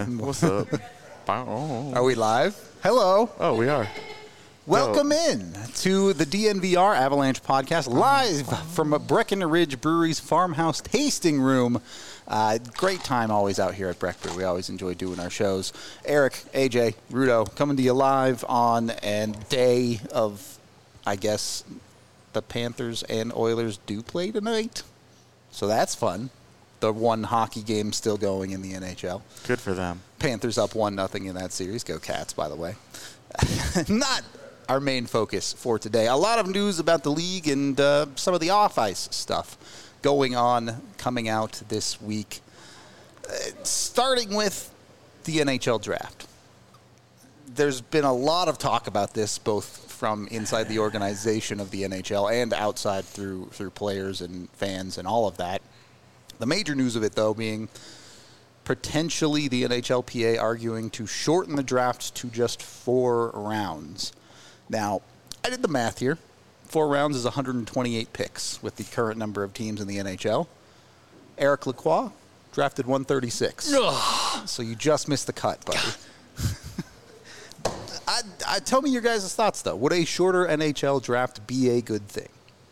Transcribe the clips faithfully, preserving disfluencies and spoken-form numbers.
What's up? Are we live? Hello. Oh, we are. Welcome oh. in to the D N V R Avalanche podcast, live from Breckenridge Brewery's farmhouse tasting room. Uh, great time always out here at Breck Brew. We always enjoy doing our shows. Eric, A J, Rudo, coming to you live on a day of, I guess, the Panthers and Oilers do play tonight. So that's fun. The one hockey game still going in the N H L. Good for them. Panthers up one nothing in that series. Go Cats, by the way. Not our main focus for today. A lot of news about the league and uh, some of the off-ice stuff going on, coming out this week. Uh, starting with the N H L draft. There's been a lot of talk about this, both from inside the organization of the N H L and outside through through players and fans and all of that. The major news of it, though, being potentially the N H L P A arguing to shorten the draft to just four rounds. Now, I did the math here. Four rounds is one hundred twenty-eight picks with the current number of teams in the N H L. Eric Lacroix drafted one thirty-six. Ugh. So you just missed the cut, buddy. I, I, tell me your guys' thoughts, though. Would a shorter N H L draft be a good thing?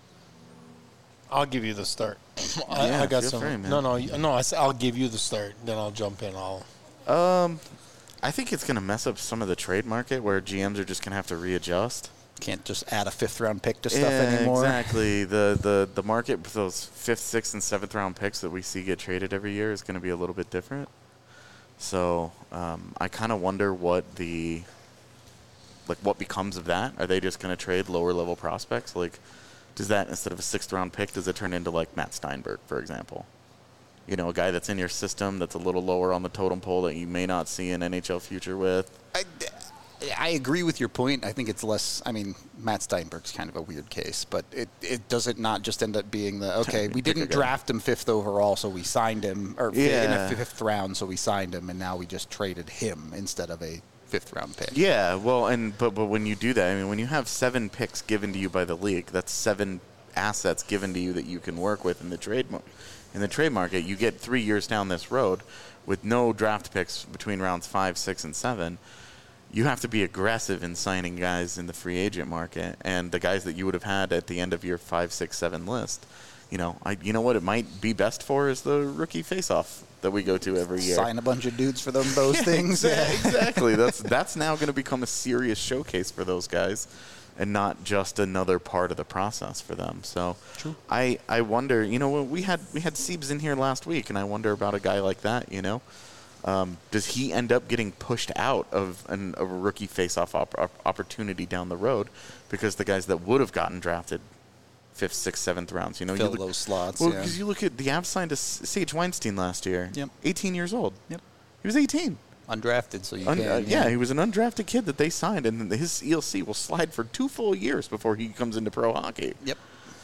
I'll give you the start. I, yeah, I got some. Free, no, no, no. I, I'll give you the start. Then I'll jump in. I'll. Um, I think it's going to mess up some of the trade market where G Ms are just going to have to readjust. Can't just add a fifth round pick to stuff yeah, anymore. Exactly. The, the the market with those fifth, sixth, and seventh round picks that we see get traded every year is going to be a little bit different. So um, I kind of wonder what the like what becomes of that. Are they just going to trade lower level prospects? Like, does that, instead of a sixth round pick, does it turn into like Matt Steinberg, for example? You know, a guy that's in your system that's a little lower on the totem pole that you may not see an N H L future with. I, I agree with your point. I think it's less, I mean, Matt Steinberg's kind of a weird case, but it, it does it not just end up being the, okay, we didn't draft him fifth overall, so we signed him, or yeah. in a fifth round, so we signed him, and now we just traded him instead of a fifth round pick. Yeah, well, and but but when you do that, I mean, when you have seven picks given to you by the league, that's seven assets given to you that you can work with in the trade mar- in the trade market. You get three years down this road with no draft picks between rounds five, six, and seven. You have to be aggressive in signing guys in the free agent market, and the guys that you would have had at the end of your five, six, seven list. You know, I you know what it might be best for is the rookie face-off that we go to every year. Sign a bunch of dudes for them, those yeah, things. Yeah, exactly. That's that's now going to become a serious showcase for those guys, and not just another part of the process for them. So, True. I I wonder. You know, we had we had Siebes in here last week, and I wonder about a guy like that. You know, um, does he end up getting pushed out of an, a rookie face-off op- opportunity down the road because the guys that would have gotten drafted fifth, sixth, seventh rounds, you know, Fill you look, those slots. well, yeah. because you look at the Avs signed a Sage Weinstein last year. Yep. eighteen years old. Yep. He was eighteen. Undrafted, so you Un- can. uh, yeah. yeah, he was an undrafted kid that they signed, and his E L C will slide for two full years before he comes into pro hockey. Yep.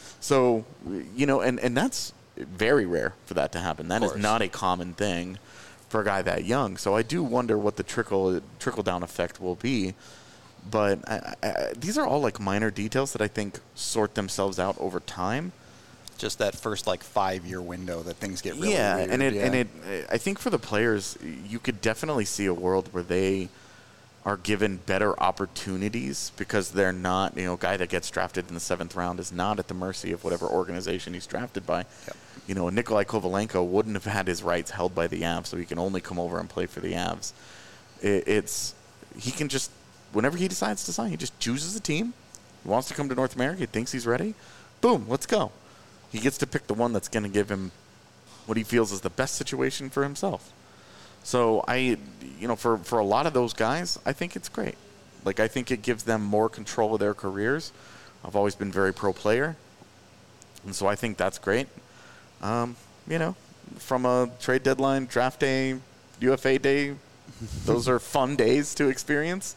So, you know, and, and that's very rare for that to happen. That is not a common thing for a guy that young. So I do wonder what the trickle trickle down effect will be. But I, I, these are all like minor details that I think sort themselves out over time. Just that first like five year window that things get really yeah, weird. and it yeah, and it. I think for the players, you could definitely see a world where they are given better opportunities because they're not, you know, a guy that gets drafted in the seventh round is not at the mercy of whatever organization he's drafted by. Yep. You know, Nikolai Kovalenko wouldn't have had his rights held by the Avs, so he can only come over and play for the Avs. It, it's he can just, whenever he decides to sign, he just chooses a team. He wants to come to North America. He thinks he's ready. Boom, let's go. He gets to pick the one that's going to give him what he feels is the best situation for himself. So I, you know, for, for a lot of those guys, I think it's great. Like, I think it gives them more control of their careers. I've always been very pro player. And so I think that's great. Um, you know, from a trade deadline, draft day, U F A day, those are fun days to experience.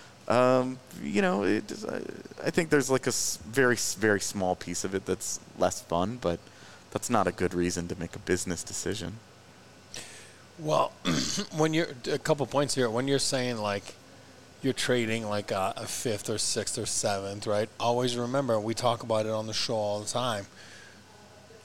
Um, you know, it, I think there's like a very, very small piece of it that's less fun, but that's not a good reason to make a business decision. Well, when you're a couple points here, when you're saying like you're trading like a, a fifth or sixth or seventh, right? Always remember, we talk about it on the show all the time.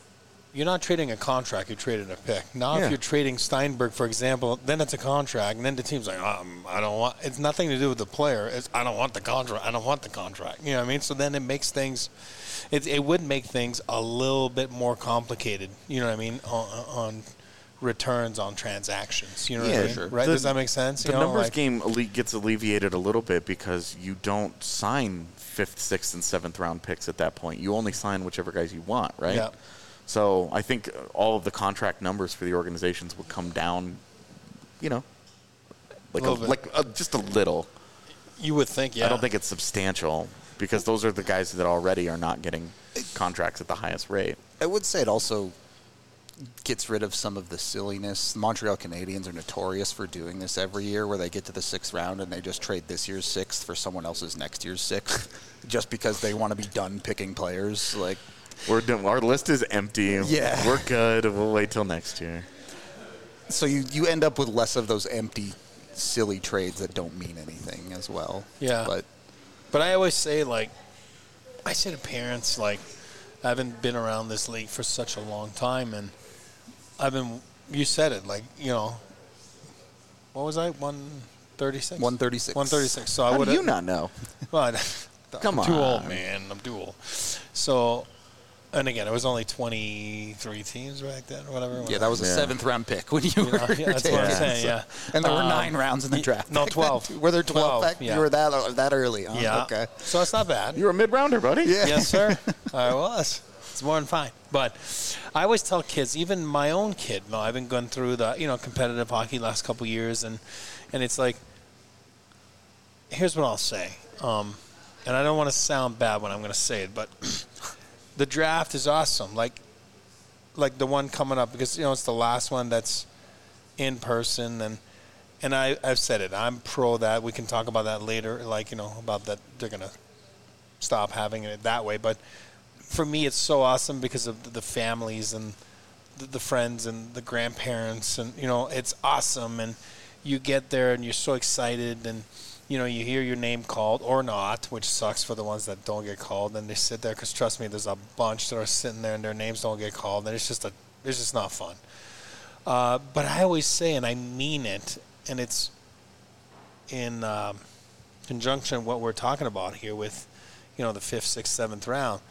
you're not trading a contract, you're trading a pick. Now, Yeah. if you're trading Steinberg, for example, then it's a contract, and then the team's like, um, I don't want. It's nothing to do with the player. It's I don't want the contract. I don't want the contract. You know what I mean? So then it makes things. It it would make things a little bit more complicated. You know what I mean? On, on returns on transactions. You know what Yeah, I mean? sure. Right? The- Does that make sense? The You know, numbers like- game alle- gets alleviated a little bit because you don't sign fifth, sixth, and seventh round picks at that point. You only sign whichever guys you want, right? Yeah. So I think all of the contract numbers for the organizations would come down, you know, like a, Little bit. like a, just a little. You would think, yeah. I don't think it's substantial because those are the guys that already are not getting contracts at the highest rate. I would say it also gets rid of some of the silliness. The Montreal Canadiens are notorious for doing this every year, where they get to the sixth round and they just trade this year's sixth for someone else's next year's sixth, just because they want to be done picking players. Like, We're done, our list is empty. Yeah. We're good. We'll wait till next year. so you you end up with less of those empty, silly trades that don't mean anything as well. Yeah. But But I always say, like, I say to parents, like, I haven't been around this league for such a long time, and I've been, you said it, like, you know, what was I, one thirty-six? one thirty-six. one thirty-six. So I How would do you not know? Well, Come I'm too old, on. man. I'm too old. So, and again, it was only twenty-three teams back then, or whatever. Yeah, that was a Yeah. seventh round pick when you You were know, yeah, that's what I'm Yeah. saying, yeah. And there were Um, nine rounds in the y- draft. no, back then, twelve. too. Were there twelve? twelve, back? yeah. You were that that early. Huh? Yeah. Okay. So it's not bad. You're a mid-rounder, buddy. Yeah. Yes, sir. I was. It's more than fine. But I always tell kids, even my own kid, no, I've been going through the, you know, competitive hockey last couple years, and and it's like, here's what I'll say. Um, and I don't want to sound bad when I'm going to say it, but the draft is awesome. Like, like the one coming up, because, you know, it's the last one that's in person, and and I, I've said it. I'm pro that. We can talk about that later, like, you know, about that they're going to stop having it that way. But for me, it's so awesome because of the families and the, the friends and the grandparents, and, you know, it's awesome. And you get there and you're so excited, and, you know, you hear your name called or not, which sucks for the ones that don't get called. And they sit there, because trust me, there's a bunch that are sitting there and their names don't get called, and it's just a, it's just not fun. Uh, but I always say, and I mean it, and it's in um, conjunction with what we're talking about here with, you know, the fifth, sixth, seventh round.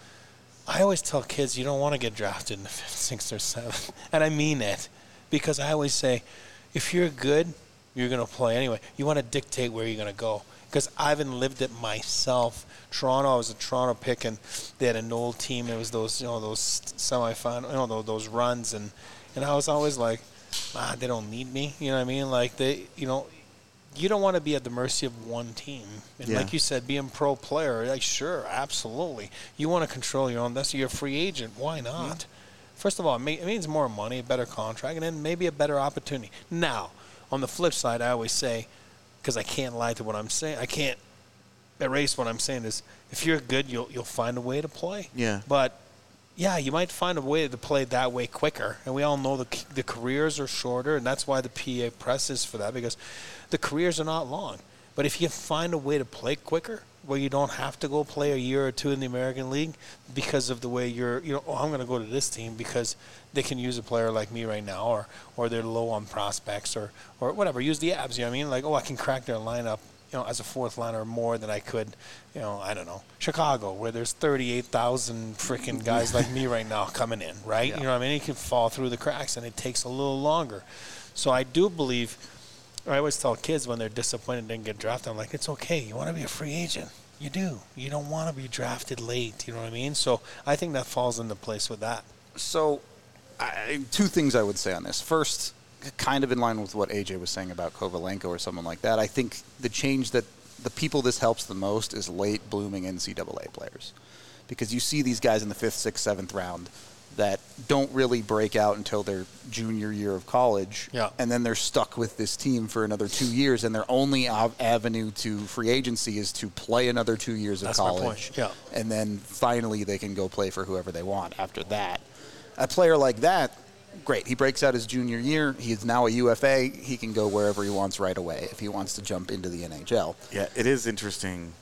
I always tell kids, you don't want to get drafted in the fifth, sixth, or seventh. And I mean it, because I always say, if you're good, you're going to play anyway. You want to dictate where you're going to go. Because I haven't lived it myself. Toronto, I was a Toronto pick, and they had an old team. It was those, you know, those semifinal, you know, those, those runs, and and I was always like, ah, they don't need me. You know what I mean? Like, they, you know, you don't want to be at the mercy of one team. And Yeah. like you said, being pro player, like, sure, absolutely. You want to control your own destiny. You're a free agent. Why not? First of all, it, may, it means more money, a better contract, and then maybe a better opportunity. Now, on the flip side, I always say, because I can't lie to what I'm saying, I can't erase what I'm saying, is if you're good, you'll you'll find a way to play. Yeah. But yeah, you might find a way to play that way quicker. And we all know the the careers are shorter, and that's why the P A presses for that, because the careers are not long. But if you find a way to play quicker, where you don't have to go play a year or two in the American League because of the way you're, you know, oh, I'm going to go to this team because they can use a player like me right now, or or they're low on prospects, or or whatever. Use the abs, you know what I mean? Like, oh, I can crack their lineup, you know, as a fourth liner more than I could, you know, I don't know, Chicago, where there's thirty-eight thousand freaking guys like me right now coming in, right? Yeah. You know what I mean? You can fall through the cracks, and it takes a little longer. So I do believe, I always tell kids when they're disappointed and didn't get drafted, I'm like, it's okay. You want to be a free agent. You do. You don't want to be drafted late. You know what I mean? So I think that falls into place with that. So, I, two things I would say on this. First, kind of in line with what A J was saying about Kovalenko or someone like that, I think the change that the people this helps the most is late blooming N C double A players. Because you see these guys in the fifth, sixth, seventh round that don't really break out until their junior year of college. Yeah. And then they're stuck with this team for another two years, and their only av- avenue to free agency is to play another two years of That's my college. point, yeah. And then finally they can go play for whoever they want after that. A player like that, great. He breaks out his junior year. He is now a U F A. He can go wherever he wants right away if he wants to jump into the N H L. Yeah, it is interesting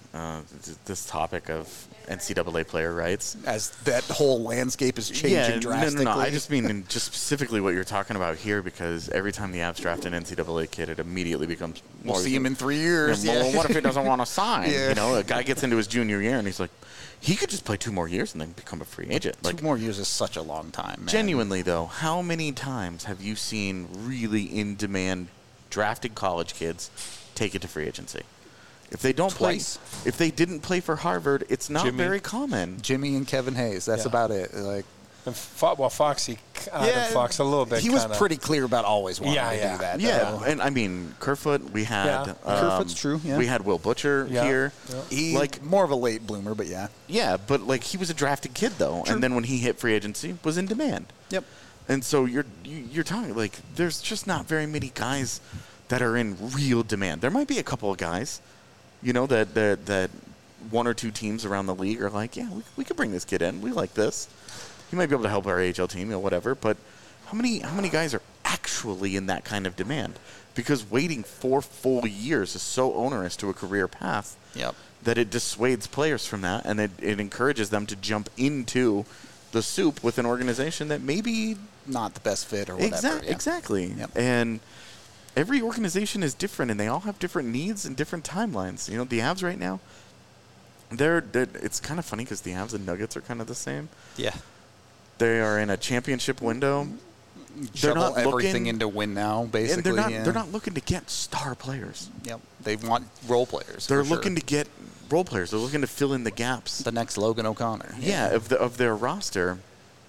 uh, th- this topic of N C double A player rights. As that whole landscape is changing Yeah, drastically. no, no, no. I just mean in just specifically what you're talking about here, because every time the Avs draft an N C double A kid, it immediately becomes We'll more. see him in three years. Yeah, well, Yeah. what if he doesn't want to sign? Yeah. You know, a guy gets into his junior year and he's like, he could just play two more years and then become a free agent. Like, Two more years is such a long time, man. genuinely, though, how many times have you seen really in-demand drafted college kids take it to free agency? If they don't Twice. play, if they didn't play for Harvard, it's not Jimmy. very common. Jimmy and Kevin Hayes. That's Yeah. about it. Like, And Fo- well, Foxy, Adam Fox, a little bit. He was kinda. pretty clear about always wanting Yeah, to yeah. do that. Yeah, though. and I mean Kerfoot. We had Yeah. um, Kerfoot's true, yeah. We had Will Butcher Yeah. here. Yeah. He Like- more of a late bloomer, but yeah. Yeah, but like he was a drafted kid though, True. and then when he hit free agency, was in demand. Yep. And so you're you- you're talking like there's just not very many guys that are in real demand. There might be a couple of guys, you know, that that that one or two teams around the league are like, yeah, we, we could bring this kid in. We like this. He might be able to help our A H L team, you know, whatever. But how many how many guys are actually in that kind of demand? Because waiting four full years is so onerous to a career path Yep. that it dissuades players from that, and it, it encourages them to jump into the soup with an organization that maybe Not the best fit or whatever. Exactly. yeah. Exactly. Yep. And every organization is different, and they all have different needs and different timelines. You know, the Avs right now, they're, they're it's kind of funny because the Avs and Nuggets are kind of the same. Yeah. They are in a championship window. They're Shovel not everything looking, into win now, basically. and they're not yeah. they're not looking to get star players. Yep. They want role players. They're for looking sure. to get role players. They're looking to fill in the gaps. the next Logan O'Connor. Yeah, of the of their roster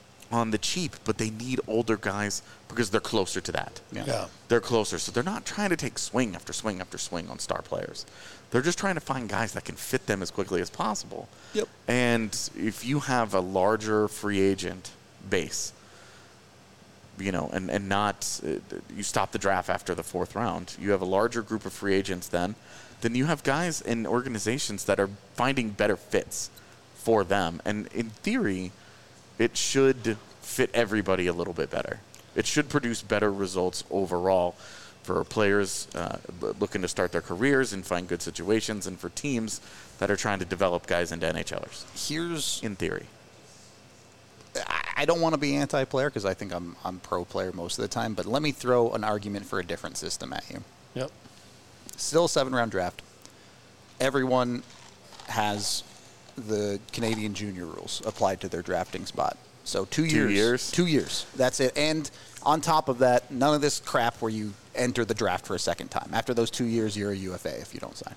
on the cheap, but they need older guys because they're closer to that. Yeah. Yeah. They're closer, so they're not trying to take swing after swing after swing on star players. They're just trying to find guys that can fit them as quickly as possible. Yep. And if you have a larger free agent base, you know, and, and not, uh, you stop the draft after the fourth round, you have a larger group of free agents then, then you have guys in organizations that are finding better fits for them. And in theory, it should fit everybody a little bit better. It should produce better results overall for players uh, looking to start their careers and find good situations, and for teams that are trying to develop guys into NHLers, Here's in theory. I- I don't want to be anti-player because I think I'm I'm pro-player most of the time, but let me throw an argument for a different system at you. Yep. Still a seven-round draft. Everyone has the Canadian junior rules applied to their drafting spot. So two, Two years. years? Two years. That's it. And on top of that, none of this crap where you enter the draft for a second time. After those two years, you're a U F A if you don't sign.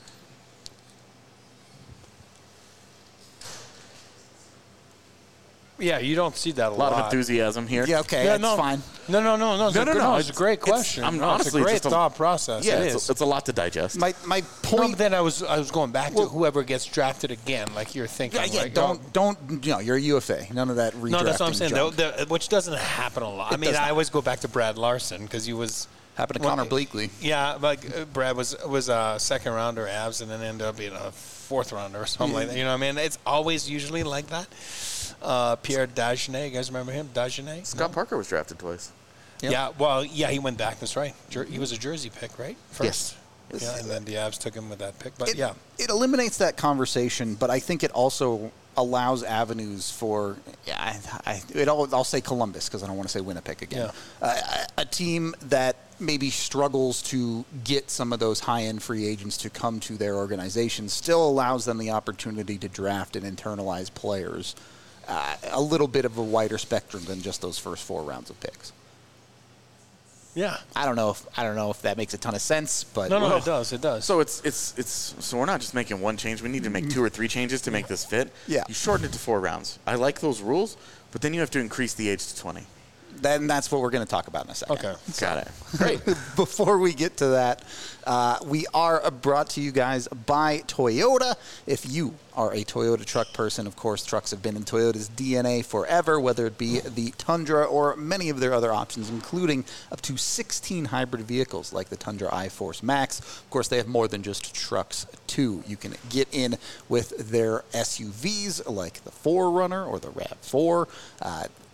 Yeah, you don't see that a A lot lot. of enthusiasm here. Yeah, okay, Yeah, that's no, fine. No, no, no, no. It's No, a no, good, no, It's a it's- great it's- question. I'm no, honestly it's a great just a- thought process. Yeah, it it's, is. it's a lot to digest. My my No, point. but then I was I was going back Well- to whoever gets drafted again, like you're thinking. yeah, yeah, like, don't oh, don't you know, you're a U F A. None of that redrafting No, that's what I'm saying. junk. The, the, which doesn't happen a lot. I It mean, does I not. always go back to Brad Larson because he was Happened to Well, Connor Bleakley. Yeah, like uh, Brad was was a second rounder Avs and then ended up being a fourth rounder or something like that. You know what I mean? It's always usually like that. Uh, Pierre Dagenet, you guys remember him? Dagenet? Scott No? Parker was drafted twice. Yep. Yeah, well, yeah, he went back. That's right. Jer- he was a Jersey pick, right? First. Yes. Yeah, and then the Avs took him with that pick. But it, yeah, it eliminates that conversation, but I think it also allows avenues for, yeah, I, I, it all, I'll say Columbus because I don't want to say Winnipeg again. Uh, a team that maybe struggles to get some of those high-end free agents to come to their organization still allows them the opportunity to draft and internalize players uh, a little bit of a wider spectrum than just those first four rounds of picks. yeah. I don't know if I don't know if that makes a ton of sense, but No, no, Well, it does. It does. So it's it's it's so we're not just making one change. We need to make two or three changes to make this fit. Yeah. You shorten it to four rounds. I like those rules, but then you have to increase the age to twenty. then that's what we're going to talk about in a second. Okay. Got it. Great. Before we get to that, uh, we are brought to you guys by Toyota. If you are a Toyota truck person, of course, trucks have been in Toyota's D N A forever, whether it be the Tundra or many of their other options, including up to sixteen hybrid vehicles like the Tundra iForce Max. Of course, they have more than just trucks, too. You can get in with their S U Vs like the four runner or the RAV four. Uh,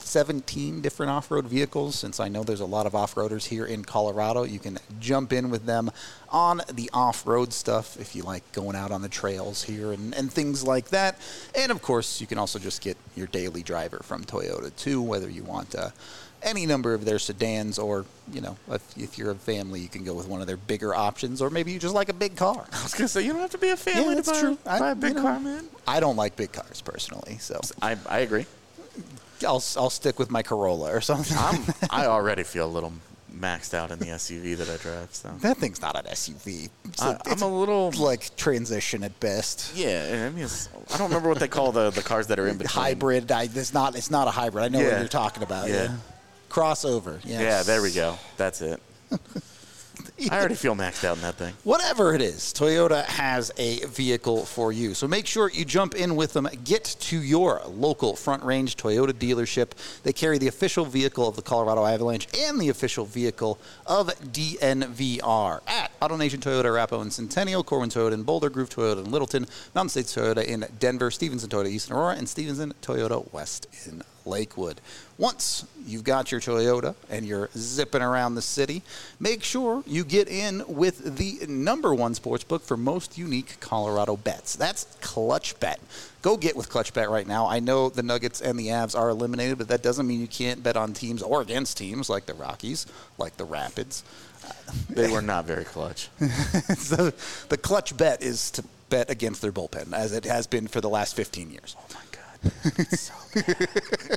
seventeen different off-road vehicles. Since I know there's a lot of off-roaders here in Colorado, you can jump in with them on the off-road stuff if you like going out on the trails here and, and things like that. And, of course, you can also just get your daily driver from Toyota, too, whether you want uh, any number of their sedans or, you know, if, if you're a family, you can go with one of their bigger options, or maybe you just like a big car. I was going to say, you don't have to be a family Yeah, to that's buy, true. I- buy a big you know, car, man. I don't like big cars, personally, so I, I agree. I'll, I'll stick with my Corolla or something. I'm, I already feel a little maxed out in the S U V that I drive. So That thing's not an S U V. It's I, a- it's I'm a little like transition at best. yeah. I mean, it's, I don't remember what they call the, the cars that are in between. Hybrid. I, it's not. It's not a hybrid. I know what Yeah. you're talking about. Yeah. Yeah. Crossover. Yes. Yeah, there we go. That's it. I already feel maxed out in that thing. Whatever it is, Toyota has a vehicle for you. So make sure you jump in with them. Get to your local Front Range Toyota dealership. They carry the official vehicle of the Colorado Avalanche and the official vehicle of D N V R at AutoNation Toyota Arapahoe and Centennial, Corwin Toyota in Boulder, Groove Toyota in Littleton, Mountain States Toyota in Denver, Stevenson Toyota East in Aurora, and Stevenson Toyota West in Lakewood. Once you've got your Toyota and you're zipping around the city, make sure you get in with the number one sports book for most unique Colorado bets. That's Clutch Bet. Go get with Clutch Bet right now. I know the Nuggets and the Avs are eliminated, but that doesn't mean you can't bet on teams or against teams like the Rockies, like the Rapids. They were not very clutch. So the Clutch Bet is to bet against their bullpen, as it has been for the last fifteen years. Oh my god, it's so bad.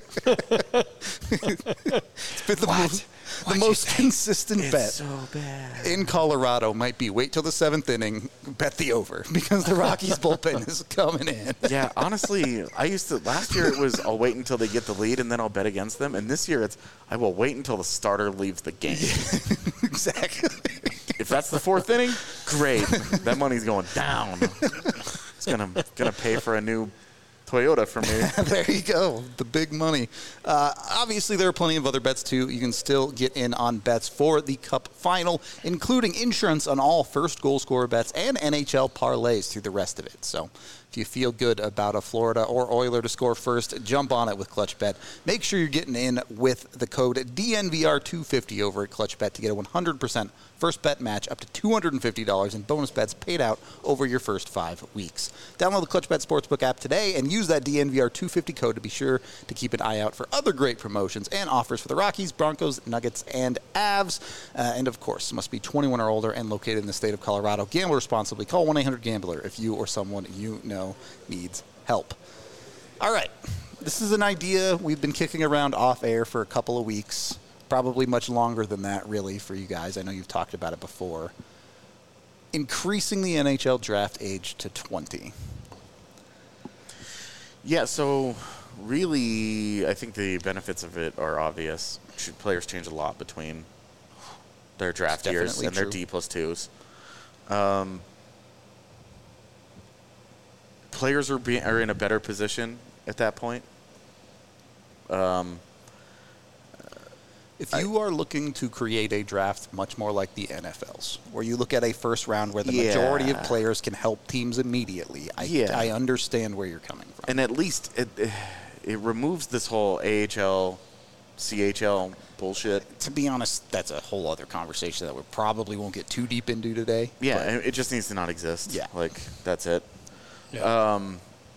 It's been the What? most, the What'd you most think? consistent It's bet so bad. in Colorado might be wait till the seventh inning, bet the over, because the Rockies bullpen is coming in. Yeah, honestly, I used to. Last year it was I'll wait until they get the lead and then I'll bet against them. And this year it's I will wait until the starter leaves the game. Exactly. If that's the fourth inning, great. That money's going down. It's gonna gonna pay for a new Toyota for me. There you go, the big money. Uh, obviously, there are plenty of other bets, too. You can still get in on bets for the Cup Final, including insurance on all first goal scorer bets and N H L parlays through the rest of it. So if you feel good about a Florida or Oiler to score first, jump on it with ClutchBet. Make sure you're getting in with the code D N V R two fifty over at ClutchBet to get a one hundred percent first bet match up to two hundred fifty dollars in bonus bets paid out over your first five weeks. Download the ClutchBet Sportsbook app today and use that D N V R two fifty code to be sure to keep an eye out for other great promotions and offers for the Rockies, Broncos, Nuggets, and Avs. Uh, and, of course, must be twenty-one or older and located in the state of Colorado. Gamble responsibly. Call one eight hundred gambler if you or someone you know needs help. All right. This is an idea we've been kicking around off air for a couple of weeks. Probably much longer than that, really, for you guys. I know you've talked about it before. Increasing the N H L draft age to twenty. Yeah, so really, I think the benefits of it are obvious. Should players change a lot between their draft That's years definitely and their true. D plus twos. Um, players are be, are in a better position at that point. Um, If you are looking to create a draft much more like the N F L's, where you look at a first round where the Yeah. majority of players can help teams immediately, I, Yeah. I understand where you're coming from. and at least it it removes this whole A H L, C H L bullshit. To be honest, that's a whole other conversation that we probably won't get too deep into today. Yeah, but- and it just needs to not exist. Yeah. Like, that's it. Yeah. Um,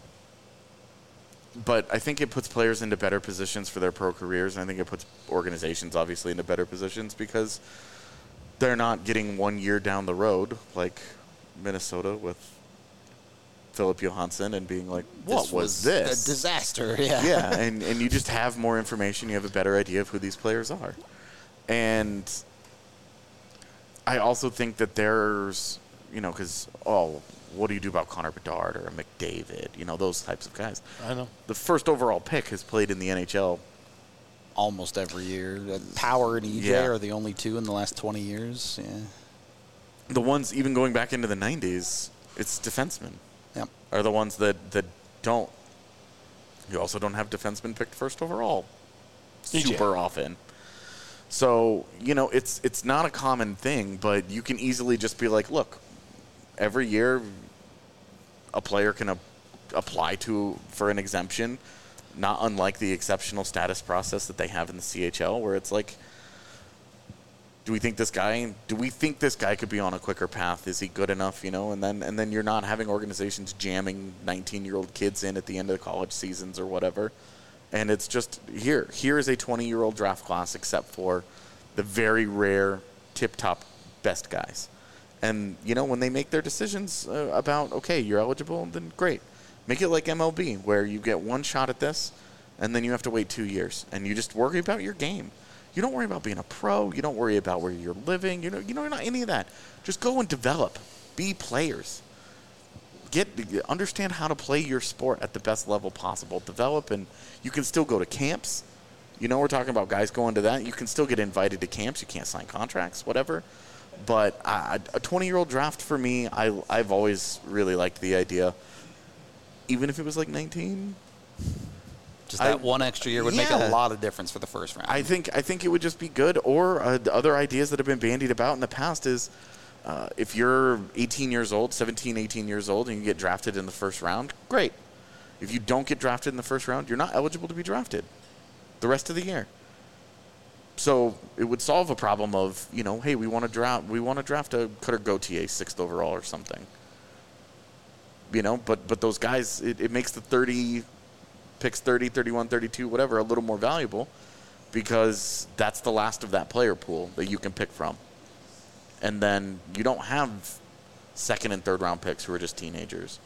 but I think it puts players into better positions for their pro careers, and I think it puts organizations, obviously, into better positions because they're not getting one year down the road like Minnesota with Philip Johansson and being like, what This was, this? A disaster, yeah. Yeah, and, and you just have more information. You have a better idea of who these players are. And I also think that there's, you know, because, oh, what do you do about Connor Bedard or a McDavid? You know, those types of guys. I know. The first overall pick has played in the N H L. Almost every year. Uh, Power and E J Yeah. are the only two in the last twenty years. Yeah. The ones, even going back into the nineties, it's defensemen Yep. are the ones that, that don't. You also don't have defensemen picked first overall E J. super often. So, you know, it's it's not a common thing, but you can easily just be like, look, every year a player can a- apply to for an exemption. not unlike the exceptional status process that they have in the C H L, where it's like, do we think this guy? Do we think this guy could be on a quicker path? Is he good enough? You know, and then and then you're not having organizations jamming nineteen-year-old kids in at the end of the college seasons or whatever, and it's just here. Here is a twenty-year-old draft class, except for the very rare tip-top best guys. And you know, when they make their decisions uh, about okay, you're eligible, then great. Make it like M L B, where you get one shot at this, and then you have to wait two years, and you just worry about your game. You don't worry about being a pro. You don't worry about where you're living. You know, you know, not any of that. Just go and develop. Be players. Get understand how to play your sport at the best level possible. Develop, and you can still go to camps. You know, we're talking about guys going to that. You can still get invited to camps. You can't sign contracts, whatever. But uh, a twenty-year-old draft for me, I I've always really liked the idea. Even if it was like nineteen. Just that I, one extra year would yeah. make a lot of difference for the first round. I think I think it would just be good. Or uh, the other ideas that have been bandied about in the past is uh, if you're eighteen years old, seventeen, eighteen years old, and you get drafted in the first round, great. If you don't get drafted in the first round, you're not eligible to be drafted the rest of the year. So it would solve a problem of, you know, hey, we want to draft we want to draft a Cutter Gauthier sixth overall or something. You know, but but those guys, it, it makes the thirty picks thirty, thirty-one, thirty-two, whatever, a little more valuable because that's the last of that player pool that you can pick from. And then you don't have second and third round picks who are just teenagers.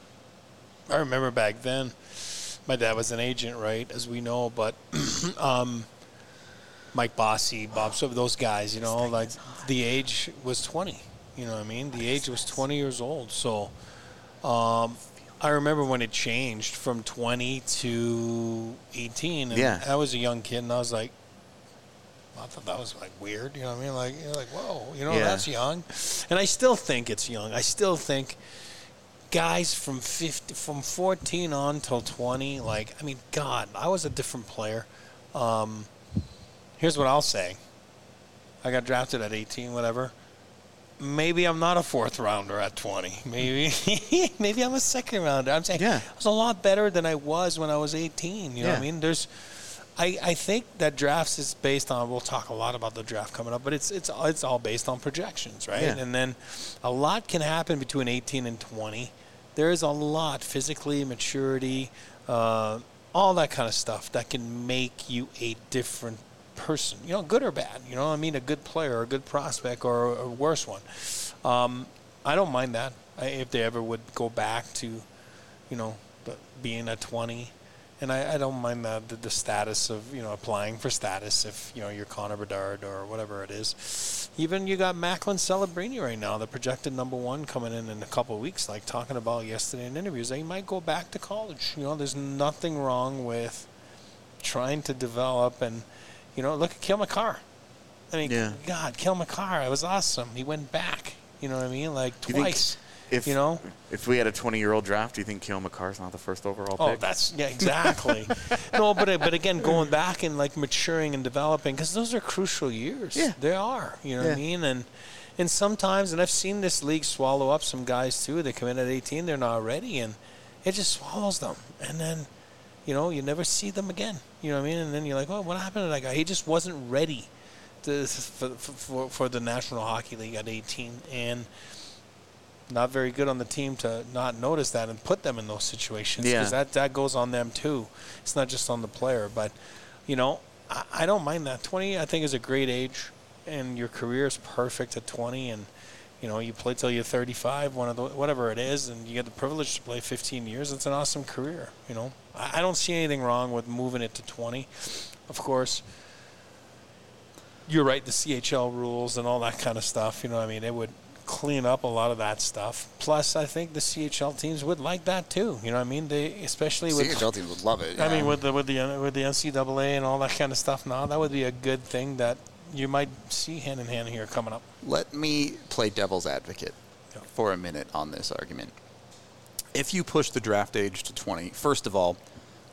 I remember back then, my dad was an agent, right, as we know, but um, Mike Bossy, Bob, some of those guys, you know, like the age was twenty. You know what I mean? The age was twenty years old. So um, I remember when it changed from twenty to eighteen. And Yeah. I was a young kid, and I was like, I thought that was like weird. You know what I mean? Like, you're like, whoa, you know, Yeah. that's young. And I still think it's young. I still think guys from fifty, from fourteen on till twenty, like, I mean, God, I was a different player. Um, here's what I'll say. I got drafted at eighteen, whatever. Maybe I'm not a fourth rounder at twenty. Maybe maybe I'm a second rounder. I'm saying Yeah. I was a lot better than I was when I was eighteen. You know Yeah. what I mean? There's, I, I think that drafts is based on, we'll talk a lot about the draft coming up, but it's it's it's all based on projections, right? Yeah. And then a lot can happen between eighteen and twenty. There is a lot, physically, maturity, uh, all that kind of stuff that can make you a different person, you know, good or bad, you know what I mean, a good player, a good prospect, or a worse one. Um, I don't mind that I, if they ever would go back to, you know, the, being at twenty. And I, I don't mind the, the the status of, you know, applying for status if, you know, you're Connor Bedard or whatever it is. Even you got Macklin Celebrini right now, the projected number one coming in in a couple of weeks, like talking about yesterday in interviews. They might go back to college. You know, there's nothing wrong with trying to develop and, you know, look at Cale Makar. I mean, Yeah. God, Cale Makar, it was awesome. He went back. You know what I mean? Like Do you think twice. If, you know? If we had a twenty-year-old draft, do you think Cale Makar's not the first overall Oh, pick? that's, yeah, exactly. No, but but again, going back and like maturing and developing, because those are crucial years. Yeah. They are. You know what I Yeah. mean? And and sometimes, and I've seen this league swallow up some guys too. They come in at eighteen, they're not ready, and it just swallows them. And then, you know, you never see them again. You know what I mean? And then you're like, oh, what happened to that guy? He just wasn't ready to, for, for for the National Hockey League at eighteen, and not very good on the team to not notice that and put them in those situations, because Yeah. that, that goes on them too. It's not just on the player. But, you know, I, I don't mind that. twenty, I think, is a great age, and your career is perfect at twenty, and, you know, you play till you're thirty-five, one of the, whatever it is, and you get the privilege to play fifteen years. It's an awesome career, you know. I, I don't see anything wrong with moving it to twenty. Of course, you're right, the C H L rules and all that kind of stuff, you know what I mean, it would clean up a lot of that stuff. Plus, I think the C H L teams would like that too. You know what I mean? They, especially with C H L teams would love it. I yeah. mean, with the with the with the N C double A and all that kind of stuff. Now, that would be a good thing that you might see hand in hand here coming up. Let me play devil's advocate Yeah. for a minute on this argument. If you push the draft age to twenty, first of all,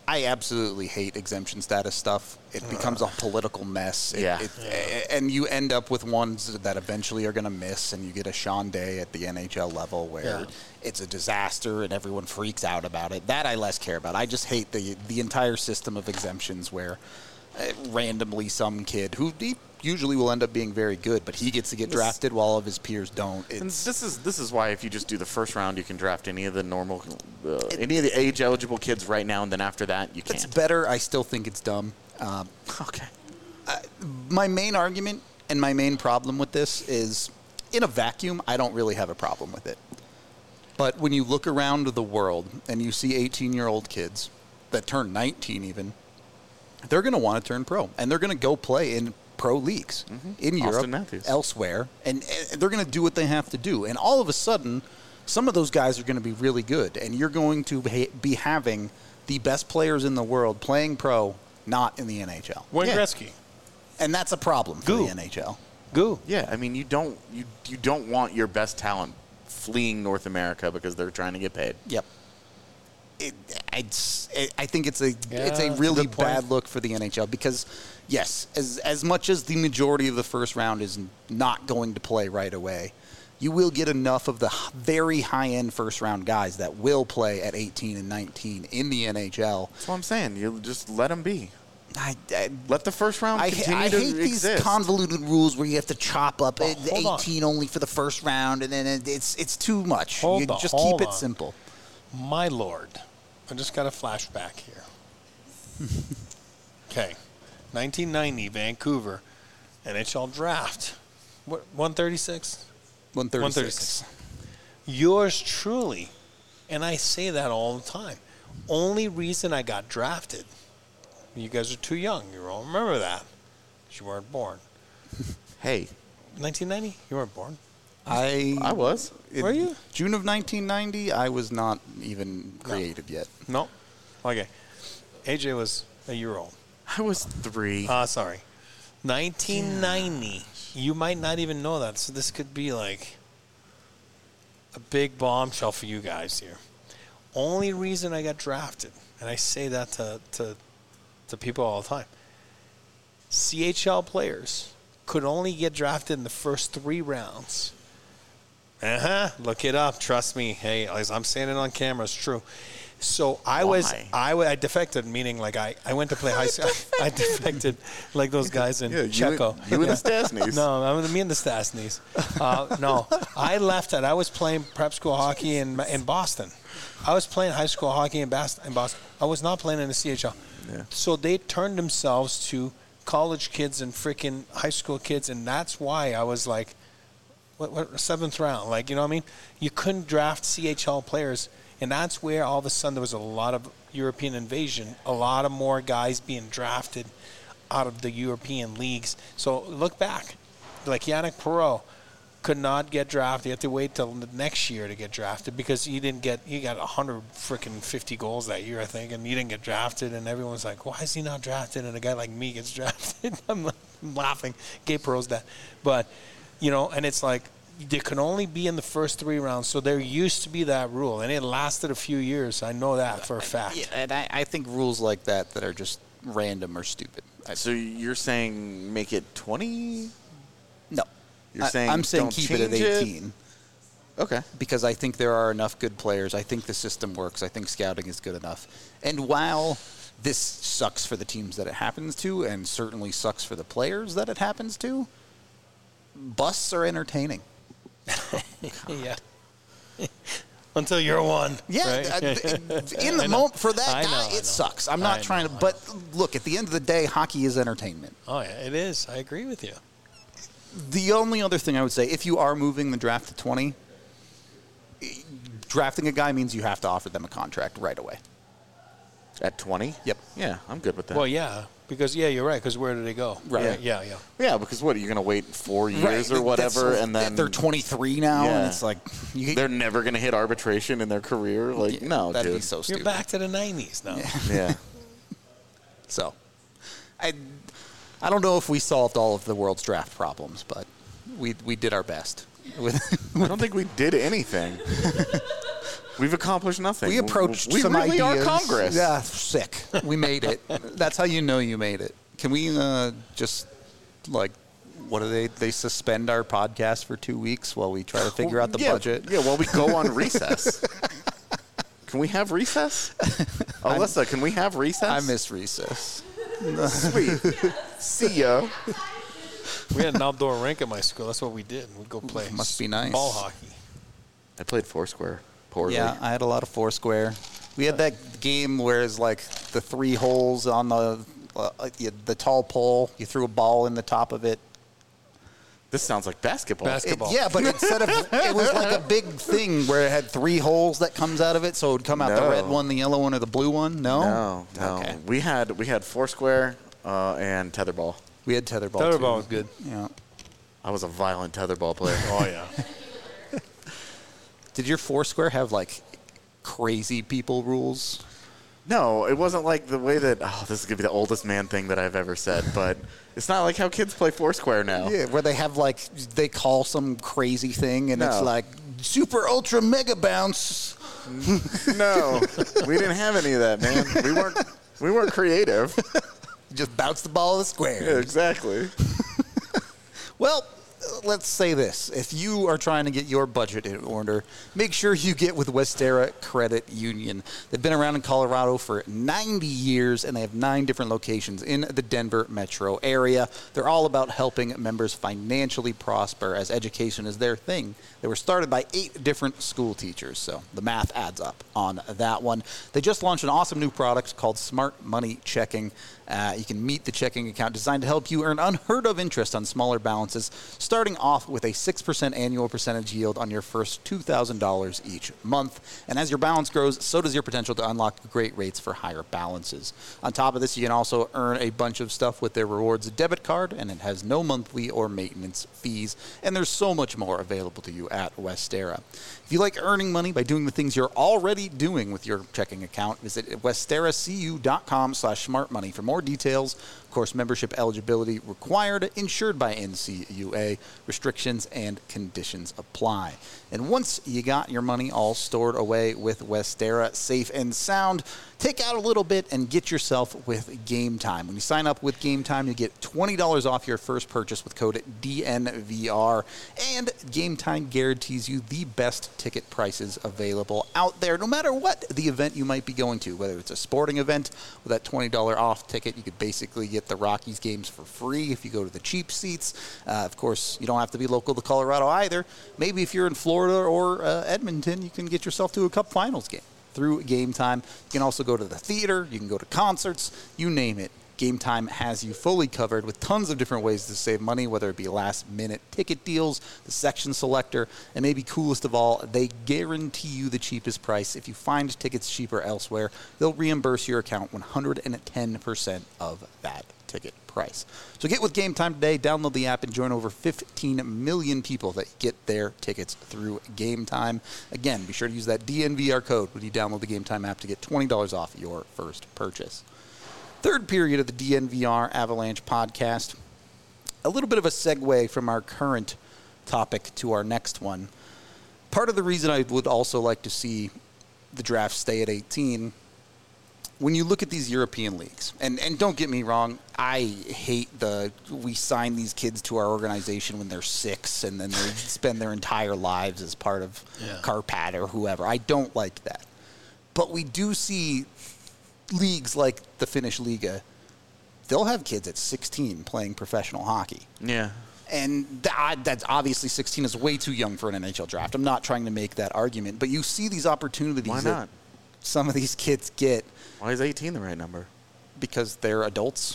I absolutely hate exemption status stuff. It becomes a political mess. It, Yeah. it, yeah. And you end up with ones that eventually are going to miss, and you get a Sean Day at the N H L level where Yeah. it's a disaster and everyone freaks out about it. That I less care about. I just hate the the entire system of exemptions where uh, randomly some kid who he usually will end up being very good, but he gets to get drafted while all of his peers don't. And It's, this is this is why if you just do the first round, you can draft any of the normal, uh, any of the age eligible kids right now, and then after that, you it's can't. better. I still think it's dumb. Um, Okay. my main argument and my main problem with this is, in a vacuum, I don't really have a problem with it. But when you look around the world and you see eighteen-year-old kids that turn nineteen even, they're going to want to turn pro. And they're going to go play in pro leagues Mm-hmm. in Austin Europe, Matthews. elsewhere. And, and they're going to do what they have to do. And all of a sudden, some of those guys are going to be really good. And you're going to ha- be having the best players in the world playing pro, not in the N H L. Wayne Yeah. Gretzky. And that's a problem for Goo. the N H L. Goo. Yeah, I mean, you don't you you don't want your best talent fleeing North America because they're trying to get paid. Yep. It, it's, it, I think it's a it's a Yeah, really good point. bad look for the N H L because, yes, as as much as the majority of the first round is not going to play right away, you will get enough of the h- very high-end first-round guys that will play at eighteen and nineteen in the N H L. That's what I'm saying. You just let them be. I, I, Let the first round I, continue I to hate these exist. convoluted rules where you have to chop up Oh, it- hold on. eighteen only for the first round, and then it, it's it's too much. Hold you on, just hold keep it on. simple. My lord. I just got a flashback here. Okay. nineteen ninety, Vancouver. N H L draft. What, one thirty-six? one thirty-six. Yours truly, and I say that all the time, only reason I got drafted, you guys are too young. You don't remember that. You weren't born. Hey, nineteen ninety? You weren't born. I I was. in Were you? June of nineteen ninety, I was not even created yet. No. Okay. A J was a year old. I was three. Ah, sorry. nineteen ninety. You might not even know that, so this could be like a big bombshell for you guys here. Only reason I got drafted, and I say that to to, to people all the time, C H L players could only get drafted in the first three rounds. Uh-huh. Look it up. Trust me. Hey, as I'm saying it on camera, it's true. So I was, Why? I, wa- I defected, meaning like I, I went to play high school. I defected like those guys in Yeah, you Checo. and- you and the Stastnys. No, I'm me and the Stastnys. Uh, no, I left it. I was playing prep school hockey in in Boston. I was playing high school hockey in, Bast- in Boston. I was not playing in the C H L. Yeah. So they turned themselves to college kids and freaking high school kids, and that's why I was like, what, what seventh round? Like, you know what I mean? You couldn't draft C H L players, and that's where all of a sudden there was a lot of European invasion, a lot of more guys being drafted out of the European leagues. So look back, like Yannick Perreault could not get drafted. You had to wait till the next year to get drafted because he didn't get. He got one hundred freaking fifty goals that year, I think, and he didn't get drafted. And everyone's like, "Why is he not drafted?" And a guy like me gets drafted. I'm, like, I'm laughing. Gabe Perreault's that, but you know, and it's like they can only be in the first three rounds. So there used to be that rule, and it lasted a few years. I know that for a fact. Yeah, and I, I think rules like that that are just random are stupid. I, So you're saying make it twenty? no. You're I, saying I'm saying don't keep it at change it? eighteen. Okay. Because I think there are enough good players. I think the system works. I think scouting is good enough. And while this sucks for the teams that it happens to, and certainly sucks for the players that it happens to, busts are entertaining. Yeah. Until you're one. Yeah, right? I- in the I know. moment for that I guy, know, I know. it sucks. I'm not I trying know, to, I but look, at the end of the day, hockey is entertainment. Oh, yeah, it is. I agree with you. The only other thing I would say, if you are moving the draft to twenty, drafting a guy means you have to offer them a contract right away. At twenty? Yep. Yeah, I'm good with that. Well, yeah, because, yeah, you're right, because where did they go? Right. Yeah, yeah. yeah, because what, are you going to wait four years Right, or that's whatever, so- and then they're twenty-three now, and Yeah. it's like you, they're never going to hit arbitration in their career? Like, no, that'd dude. be so You're stupid. back to the nineties now. Yeah. So, I, I don't know if we solved all of the world's draft problems, but we we did our best. With I don't think we did anything. We've accomplished nothing. We approached we some really ideas. are Congress. Yeah, sick. We made it. That's how you know you made it. Can we uh, just, like, what do they, they suspend our podcast for two weeks while we try to figure out the yeah, budget? Yeah, while we go on recess. Can we have recess? Alyssa, can we have recess? I miss recess. Sweet. See ya. We had an outdoor rink at my school. That's what we did. We'd go play. Must be nice. Ball hockey. I played Foursquare poorly. Yeah, I had a lot of Foursquare. We had that game where it's like the three holes on the uh, the, the tall pole. You threw a ball in the top of it. This sounds like basketball. It, Basketball. yeah, but instead of it was like a big thing where it had three holes that comes out of it, so it would come out the No. red one, the yellow one, or the blue one. No, No, no. Okay. We had we had Foursquare uh, and tetherball. We had tetherball. Tetherball too. was good. Yeah. I was a violent tetherball player. Oh, yeah. Did your Foursquare have like crazy people rules? No, it wasn't like the way that. Oh, this is gonna be the oldest man thing that I've ever said, but it's not like how kids play Foursquare now. Yeah, where they have like they call some crazy thing and it's No. like super ultra mega bounce. No, we didn't have any of that, man. We weren't we weren't creative. Just bounce the ball of the square. Yeah, exactly. Well, uh, let's say this. If you are trying to get your budget in order, make sure you get with Westera Credit Union. They've been around in Colorado for ninety years, and they have nine different locations in the Denver metro area. They're all about helping members financially prosper, as education is their thing. They were started by eight different school teachers, so the math adds up on that one. They just launched an awesome new product called Smart Money Checking. Uh, you can meet the checking account designed to help you earn unheard of interest on smaller balances, starting off with a six percent annual percentage yield on your first two thousand dollars each month. And as your balance grows, so does your potential to unlock great rates for higher balances. On top of this, you can also earn a bunch of stuff with their rewards debit card, and it has no monthly or maintenance fees. And there's so much more available to you at Westera. If you like earning money by doing the things you're already doing with your checking account, visit westeracu.com slash smartmoney for more details. Of course, membership eligibility required, insured by N C U A. Restrictions and conditions apply. And once you got your money all stored away with Westera, safe and sound, take out a little bit and get yourself with Game Time. When you sign up with Game Time, you get twenty dollars off your first purchase with code D N V R. And Game Time guarantees you the best ticket prices available out there, no matter what the event you might be going to. Whether it's a sporting event with that twenty dollars off ticket, you could basically get the Rockies games for free if you go to the cheap seats. Uh, of course, you don't have to be local to Colorado either. Maybe if you're in Florida or uh, Edmonton, you can get yourself to a Cup Finals game through Game Time. You can also go to the theater. You can go to concerts. You name it. Game Time has you fully covered with tons of different ways to save money, whether it be last-minute ticket deals, the section selector, and maybe coolest of all, they guarantee you the cheapest price. If you find tickets cheaper elsewhere, they'll reimburse your account one hundred ten percent of that ticket price. So get with Game Time today. Download the app and join over fifteen million people that get their tickets through Game Time. Again, be sure to use that D N V R code when you download the Game Time app to get twenty dollars off your first purchase. Third period of the D N V R Avalanche podcast. A little bit of a segue from our current topic to our next one. Part of the reason I would also like to see the draft stay at eighteen, when you look at these European leagues, and, and don't get me wrong, I hate the we sign these kids to our organization when they're six and then they spend their entire lives as part of Yeah. Karpat or whoever. I don't like that. But we do see leagues like the Finnish Liga, they'll have kids at sixteen playing professional hockey. Yeah. And that, that's obviously sixteen is way too young for an N H L draft. I'm not trying to make that argument, but you see these opportunities Why that not? some of these kids get Why is eighteen the right number? because they're adults.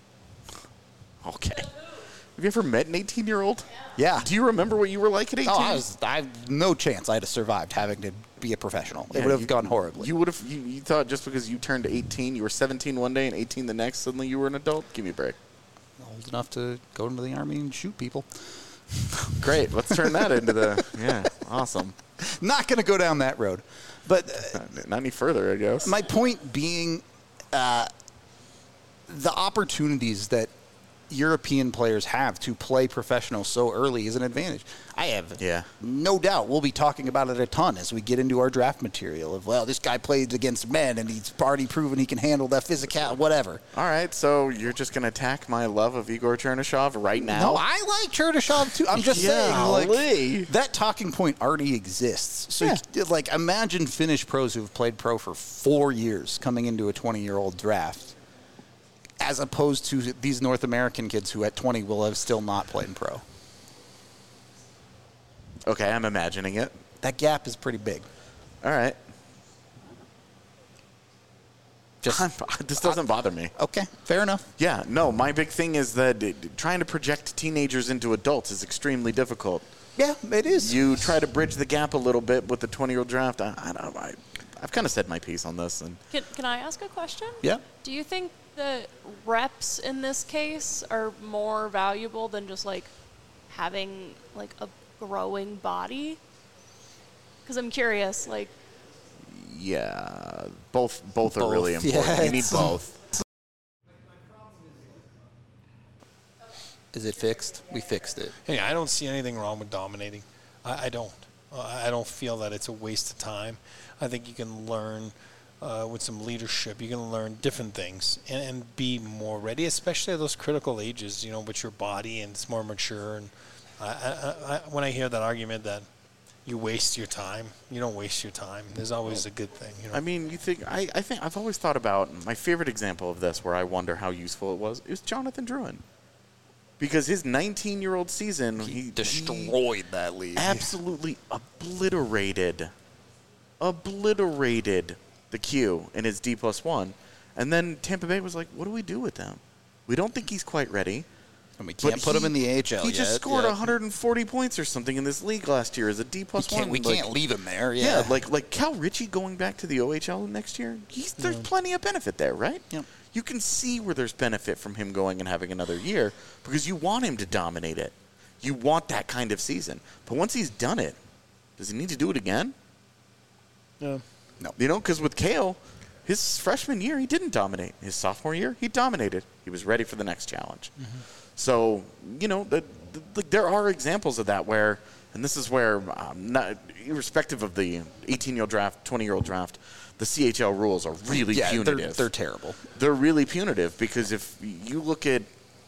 Okay. Have you ever met an eighteen-year-old? Yeah. Do you remember what you were like at eighteen? Oh, I was, I no chance I'd have survived having to be a professional. It Yeah, would have you- gone horribly. You would have. You, you thought just because you turned eighteen, you were seventeen one day and eighteen the next, suddenly you were an adult? Give me a break. Old enough to go into the army and shoot people. Great. Let's turn that into the. Yeah. Awesome. Not going to go down that road. But uh, Not, not any further, I guess. my point being, uh, the opportunities that European players have to play professional so early is an advantage. I have Yeah. no doubt we'll be talking about it a ton as we get into our draft material of, well, this guy played against men and he's already proven he can handle that physical, whatever. All right, so you're just going to attack my love of Igor Chernyshov right now? No, I like Chernyshov too. I'm just saying, Golly. like, that talking point already exists. So, Yeah. you- like, imagine Finnish pros who've played pro for four years coming into a twenty-year-old draft, as opposed to these North American kids who at twenty will have still not played in pro. Okay, I'm imagining it. That gap is pretty big. All right. Just this doesn't bother me. okay, fair enough. Yeah, no, my big thing is that it, trying to project teenagers into adults is extremely difficult. Yeah, it is. You try to bridge the gap a little bit with the twenty-year-old draft. I, I don't. I, I've kind of said my piece on this, and Can, can I ask a question? Yeah. Do you think the reps in this case are more valuable than just like having like a growing body? Because I'm curious, like. yeah, both both, Both, are really yeah, important. you need it's- both. Is it fixed? We fixed it. Hey, I don't see anything wrong with dominating. I, I don't. Uh, I don't feel that it's a waste of time. I think you can learn uh, with some leadership. You can learn different things and, and be more ready, especially at those critical ages. You know, with your body and it's more mature. And I, I, I, when I hear that argument that you waste your time, you don't waste your time. There's always a good thing. You know? I mean, you think I, I think I've always thought about my favorite example of this, where I wonder how useful it was. Is Jonathan Drouin, because his nineteen-year-old season he, Destroyed that league. absolutely obliterated, obliterated the Q in his D plus one, and then Tampa Bay was like, "What do we do with him? We don't think he's quite ready." And we But can't put he- him in the A H L He yet. just scored yeah. one hundred forty points or something in this league last year as a D plus We can't, one. we like- can't leave him there. Yeah. Yeah, like like Cal Ritchie going back to the O H L next year. He's, there's plenty of benefit there, right? Yep. You can see where there's benefit from him going and having another year because you want him to dominate it. You want that kind of season. But once he's done it, does he need to do it again? yeah. You know, because with Kale, his freshman year he didn't dominate. His sophomore year he dominated. He was ready for the next challenge. Mm-hmm. So you know, the, the, like there are examples of that where, and this is where, um, not, irrespective of the eighteen-year-old draft, twenty-year-old draft, the C H L rules are really yeah, they're, punitive. they're terrible. They're really punitive because if you look at,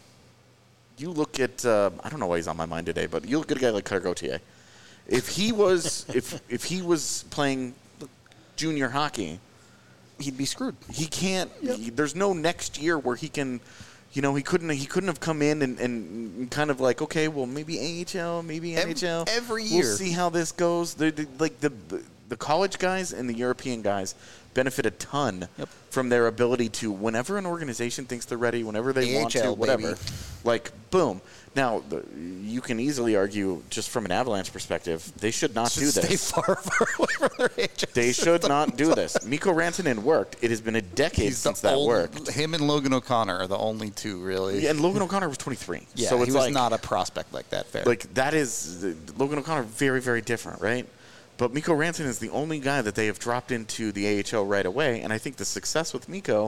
you look at, uh, I don't know why he's on my mind today, but you look at a guy like Claire Gauthier. If he was, if if he was playing junior hockey, He'd be screwed. he can't. He, there's no next year where he can. You know, he couldn't. He couldn't have come in and, and kind of like, okay, well, maybe A H L, maybe Ev- N H L. every We'll year. see how this goes. The, the, like the, the the college guys and the European guys benefit a ton Yep. from their ability to, whenever an organization thinks they're ready, whenever they want to, A H L, whatever. baby. Like, boom. Now, the, you can easily argue, just from an Avalanche perspective, they should not do Stay this. far, far away from their A H L They should system. not do this. Mikko Rantanen worked. It has been a decade He's the since that old- worked. Him and Logan O'Connor are the only two, really. Yeah, and Logan O'Connor was twenty-three. Yeah, so he it's was like, not a prospect like that. Fair. like that is Logan O'Connor very very different, right? But Mikko Rantanen is the only guy that they have dropped into the A H L right away, and I think the success with Mikko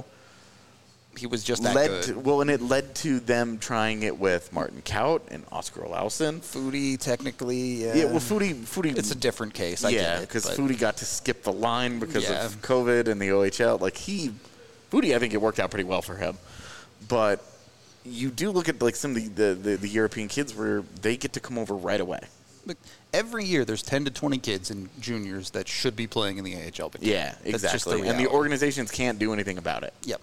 he was just that led good. to, well, and it led to them trying it with Martin Kaut and Oscar Olausen. Foodie, technically, yeah. Yeah, well, Foodie, Foodie, It's a different case. I yeah, get it, because but- Foodie got to skip the line because Yeah. of COVID and the O H L. Like he, Foodie, I think it worked out pretty well for him. But you do look at like some of the, the, the, the European kids where they get to come over right away. Look, every year there's ten to twenty kids in juniors that should be playing in the A H L. But Yeah, That's just the exactly. And the reality. organizations can't do anything about it. Yep.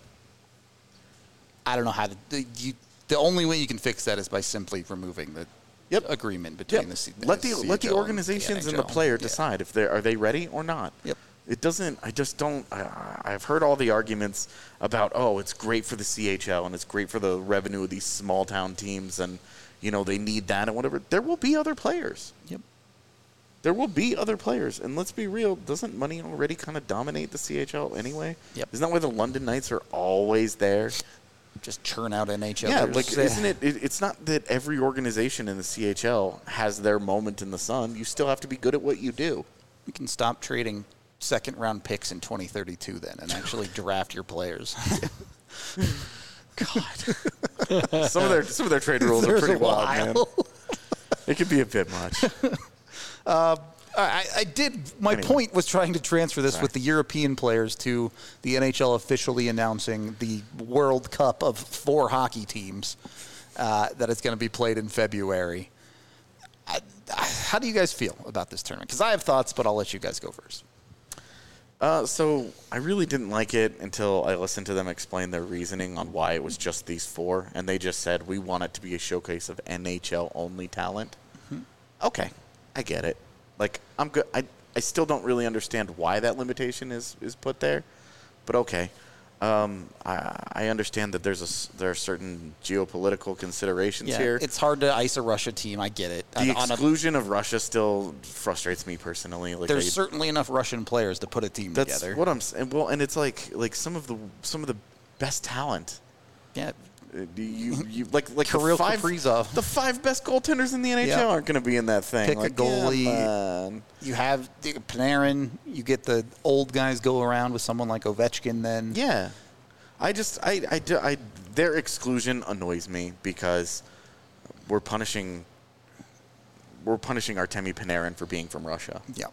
I don't know how to. The, you, the only way you can fix that is by simply removing the Yep. agreement between Yep. the C- let the C H L let the and organizations and the N H L. player Yeah. decide if they are they ready or not. Yep. It doesn't. I just don't. I, I've heard all the arguments about, oh, it's great for the C H L and it's great for the revenue of these small town teams, and you know they need that and whatever. There will be other players. Yep. There will be other players, and let's be real. Doesn't money already kind of dominate the C H L anyway? Yep. Isn't that why the London Knights are always there? Just churn out N H L. Yeah, There's- like isn't it, it? It's not that every organization in the C H L has their moment in the sun. You still have to be good at what you do. We can stop trading second round picks in twenty thirty-two then and actually draft your players. God. some of their some of their trade rules are There's pretty a wild, man. while. It could be a bit much. I, I did. My Anyway. point was trying to transfer this Sorry. with the European players to the N H L officially announcing the World Cup of four hockey teams uh, that it's going to be played in February. I, I, how do you guys feel about this tournament? Because I have thoughts, but I'll let you guys go first. Uh, so I really didn't like it until I listened to them explain their reasoning on why it was just these four, and they just said we want it to be a showcase of N H L only talent. Mm-hmm. Okay, I get it. Like I'm good. I I still don't really understand why that limitation is is put there, but okay. Um, I I understand that there's a s- there are certain geopolitical considerations Yeah, here. it's hard to ice a Russia team. I get it. The On a- exclusion of Russia still frustrates me personally. Like there's I, certainly enough Russian players to put a team that's together. what I'm saying. Well, and it's like like some of the some of the best talent. yeah, Uh, You, you like like Kirill the five Kaprizov. the five best goaltenders in the N H L Yep. aren't going to be in that thing. Pick a like, goalie. yeah, man. you have the Panarin. You get the old guys go around with someone like Ovechkin. Then Yeah. I just I, I, do- I their exclusion annoys me because we're punishing we're punishing Artemi Panarin for being from Russia. yeah,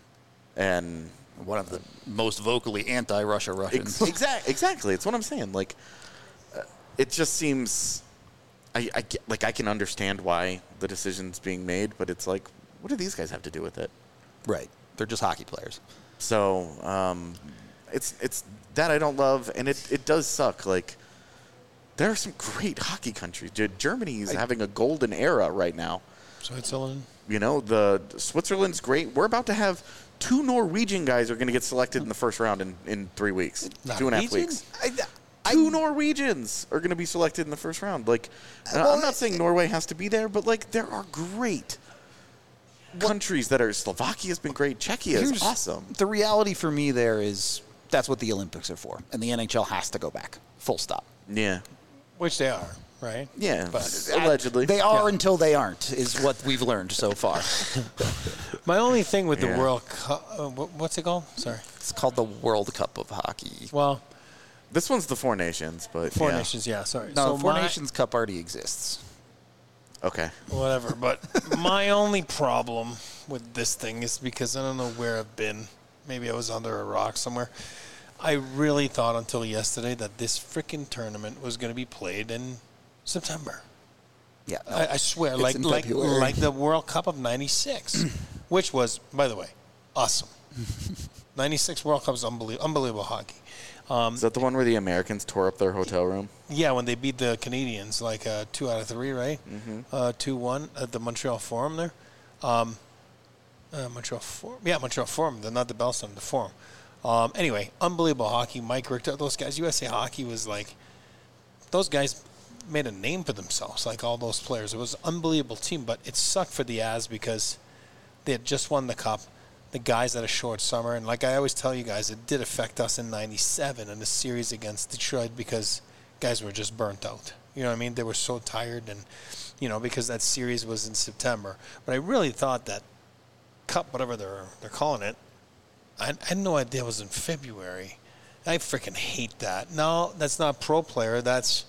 And one of the most vocally anti-Russia Russians. Ex- exact, exactly. It's what I'm saying. Like, uh, it just seems, I, I get, like I can understand why the decision's being made, but it's like, what do these guys have to do with it? Right. They're just hockey players. So, um, it's it's that I don't love, and it, it does suck. Like, there are some great hockey countries. Dude, Germany is having a golden era right now. Switzerland. You know, the Switzerland's great. We're about to have two Norwegian guys are going to get selected in the first round in, in three weeks, two and a half Norwegian? weeks. I, Two Norwegians are going to be selected in the first round. Like, and Well, I'm not saying Norway has to be there, but like, there are great countries that are. Slovakia's been great. Czechia is Here's- awesome. The reality for me there is that's what the Olympics are for, and the N H L has to go back. Full stop. Yeah, Which they are, right? yeah. But- allegedly, They are Yeah. until they aren't, is what we've learned so far. My only thing with Yeah. the World Cup, uh, wh- what's it called? Sorry. It's called the World Cup of Hockey. Well, This one's the Four Nations, but Four yeah. Nations, yeah, sorry. No, so the Four my- Nations Cup already exists. Okay. Whatever, but my only problem with this thing is because I don't know where I've been. Maybe I was under a rock somewhere. I really thought until yesterday that this freaking tournament was going to be played in September. Yeah. no. I, I swear, It's like in like February. like the World Cup of ninety-six, which was, by the way, awesome. ninety-six World Cup is unbelievable, unbelievable hockey. Is that the one where the Americans tore up their hotel room? Yeah, when they beat the Canadians, like uh, two out of three, right? Mm-hmm. Uh, two one at the Montreal Forum there. Um, uh, Montreal Forum, yeah, Montreal Forum. They're not the Bell Center, the Forum. Um, anyway, unbelievable hockey. Mike Richter, those guys. U S A Hockey was like, those guys made a name for themselves. Like all those players, it was an unbelievable team. But it sucked for the Avs because they had just won the cup. The guys had a short summer, and like I always tell you guys, it did affect us in ninety-seven in the series against Detroit because guys were just burnt out. You know what I mean? They were so tired, and you know, because that series was in September. But I really thought that cup, whatever they're they're calling it, I, I had no idea it was in February. I freaking hate that. No, that's not pro player. That's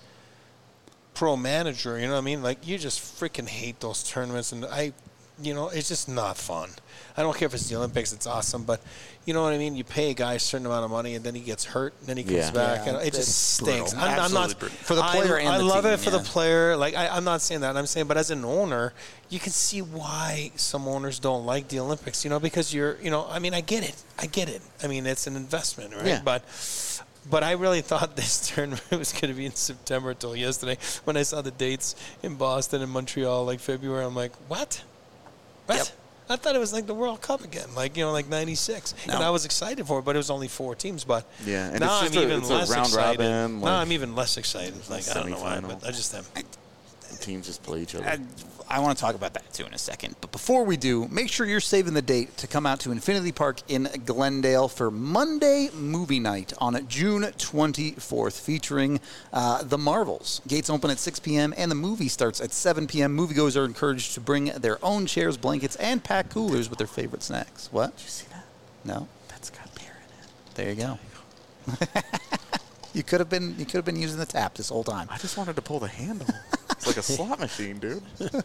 pro manager. You know what I mean? Like, you just freaking hate those tournaments, and I, you know, it's just not fun. I don't care if it's the Olympics; it's awesome, but you know what I mean. You pay a guy a certain amount of money, and then he gets hurt, and then he comes Yeah. back, Yeah, and it that's just brutal. stinks. I'm, I'm not Absolutely brutal. For the player I, and I the love team, it for yeah. the player. Like I, I'm not saying that. I'm saying, but as an owner, you can see why some owners don't like the Olympics. You know, because you're, you know, I mean, I get it. I get it. I mean, it's an investment, right? Yeah. But. But I really thought this tournament was going to be in September until yesterday when I saw the dates in Boston and Montreal, like February. I'm like, what? What? Yep. I thought it was like the World Cup again, like, you know, like ninety-six. No. And I was excited for it, but it was only four teams. But Yeah, and now it's just I'm a- even it's a less round excited. robin, now like- I'm even less excited. Like, I don't know why, semifinal. but I just am. The teams just play each other. I, I want to talk about that too in a second. But before we do, make sure you're saving the date to come out to Infinity Park in Glendale for Monday Movie Night on June twenty-fourth, featuring uh, The Marvels. Gates open at six p.m. and the movie starts at seven p.m. Moviegoers are encouraged to bring their own chairs, blankets, and pack coolers with their favorite snacks. What? Did you see that? No? That's got beer in it. There you go. You could have been you could have been using the tap this whole time. I just wanted to pull the handle. It's like a slot machine, dude.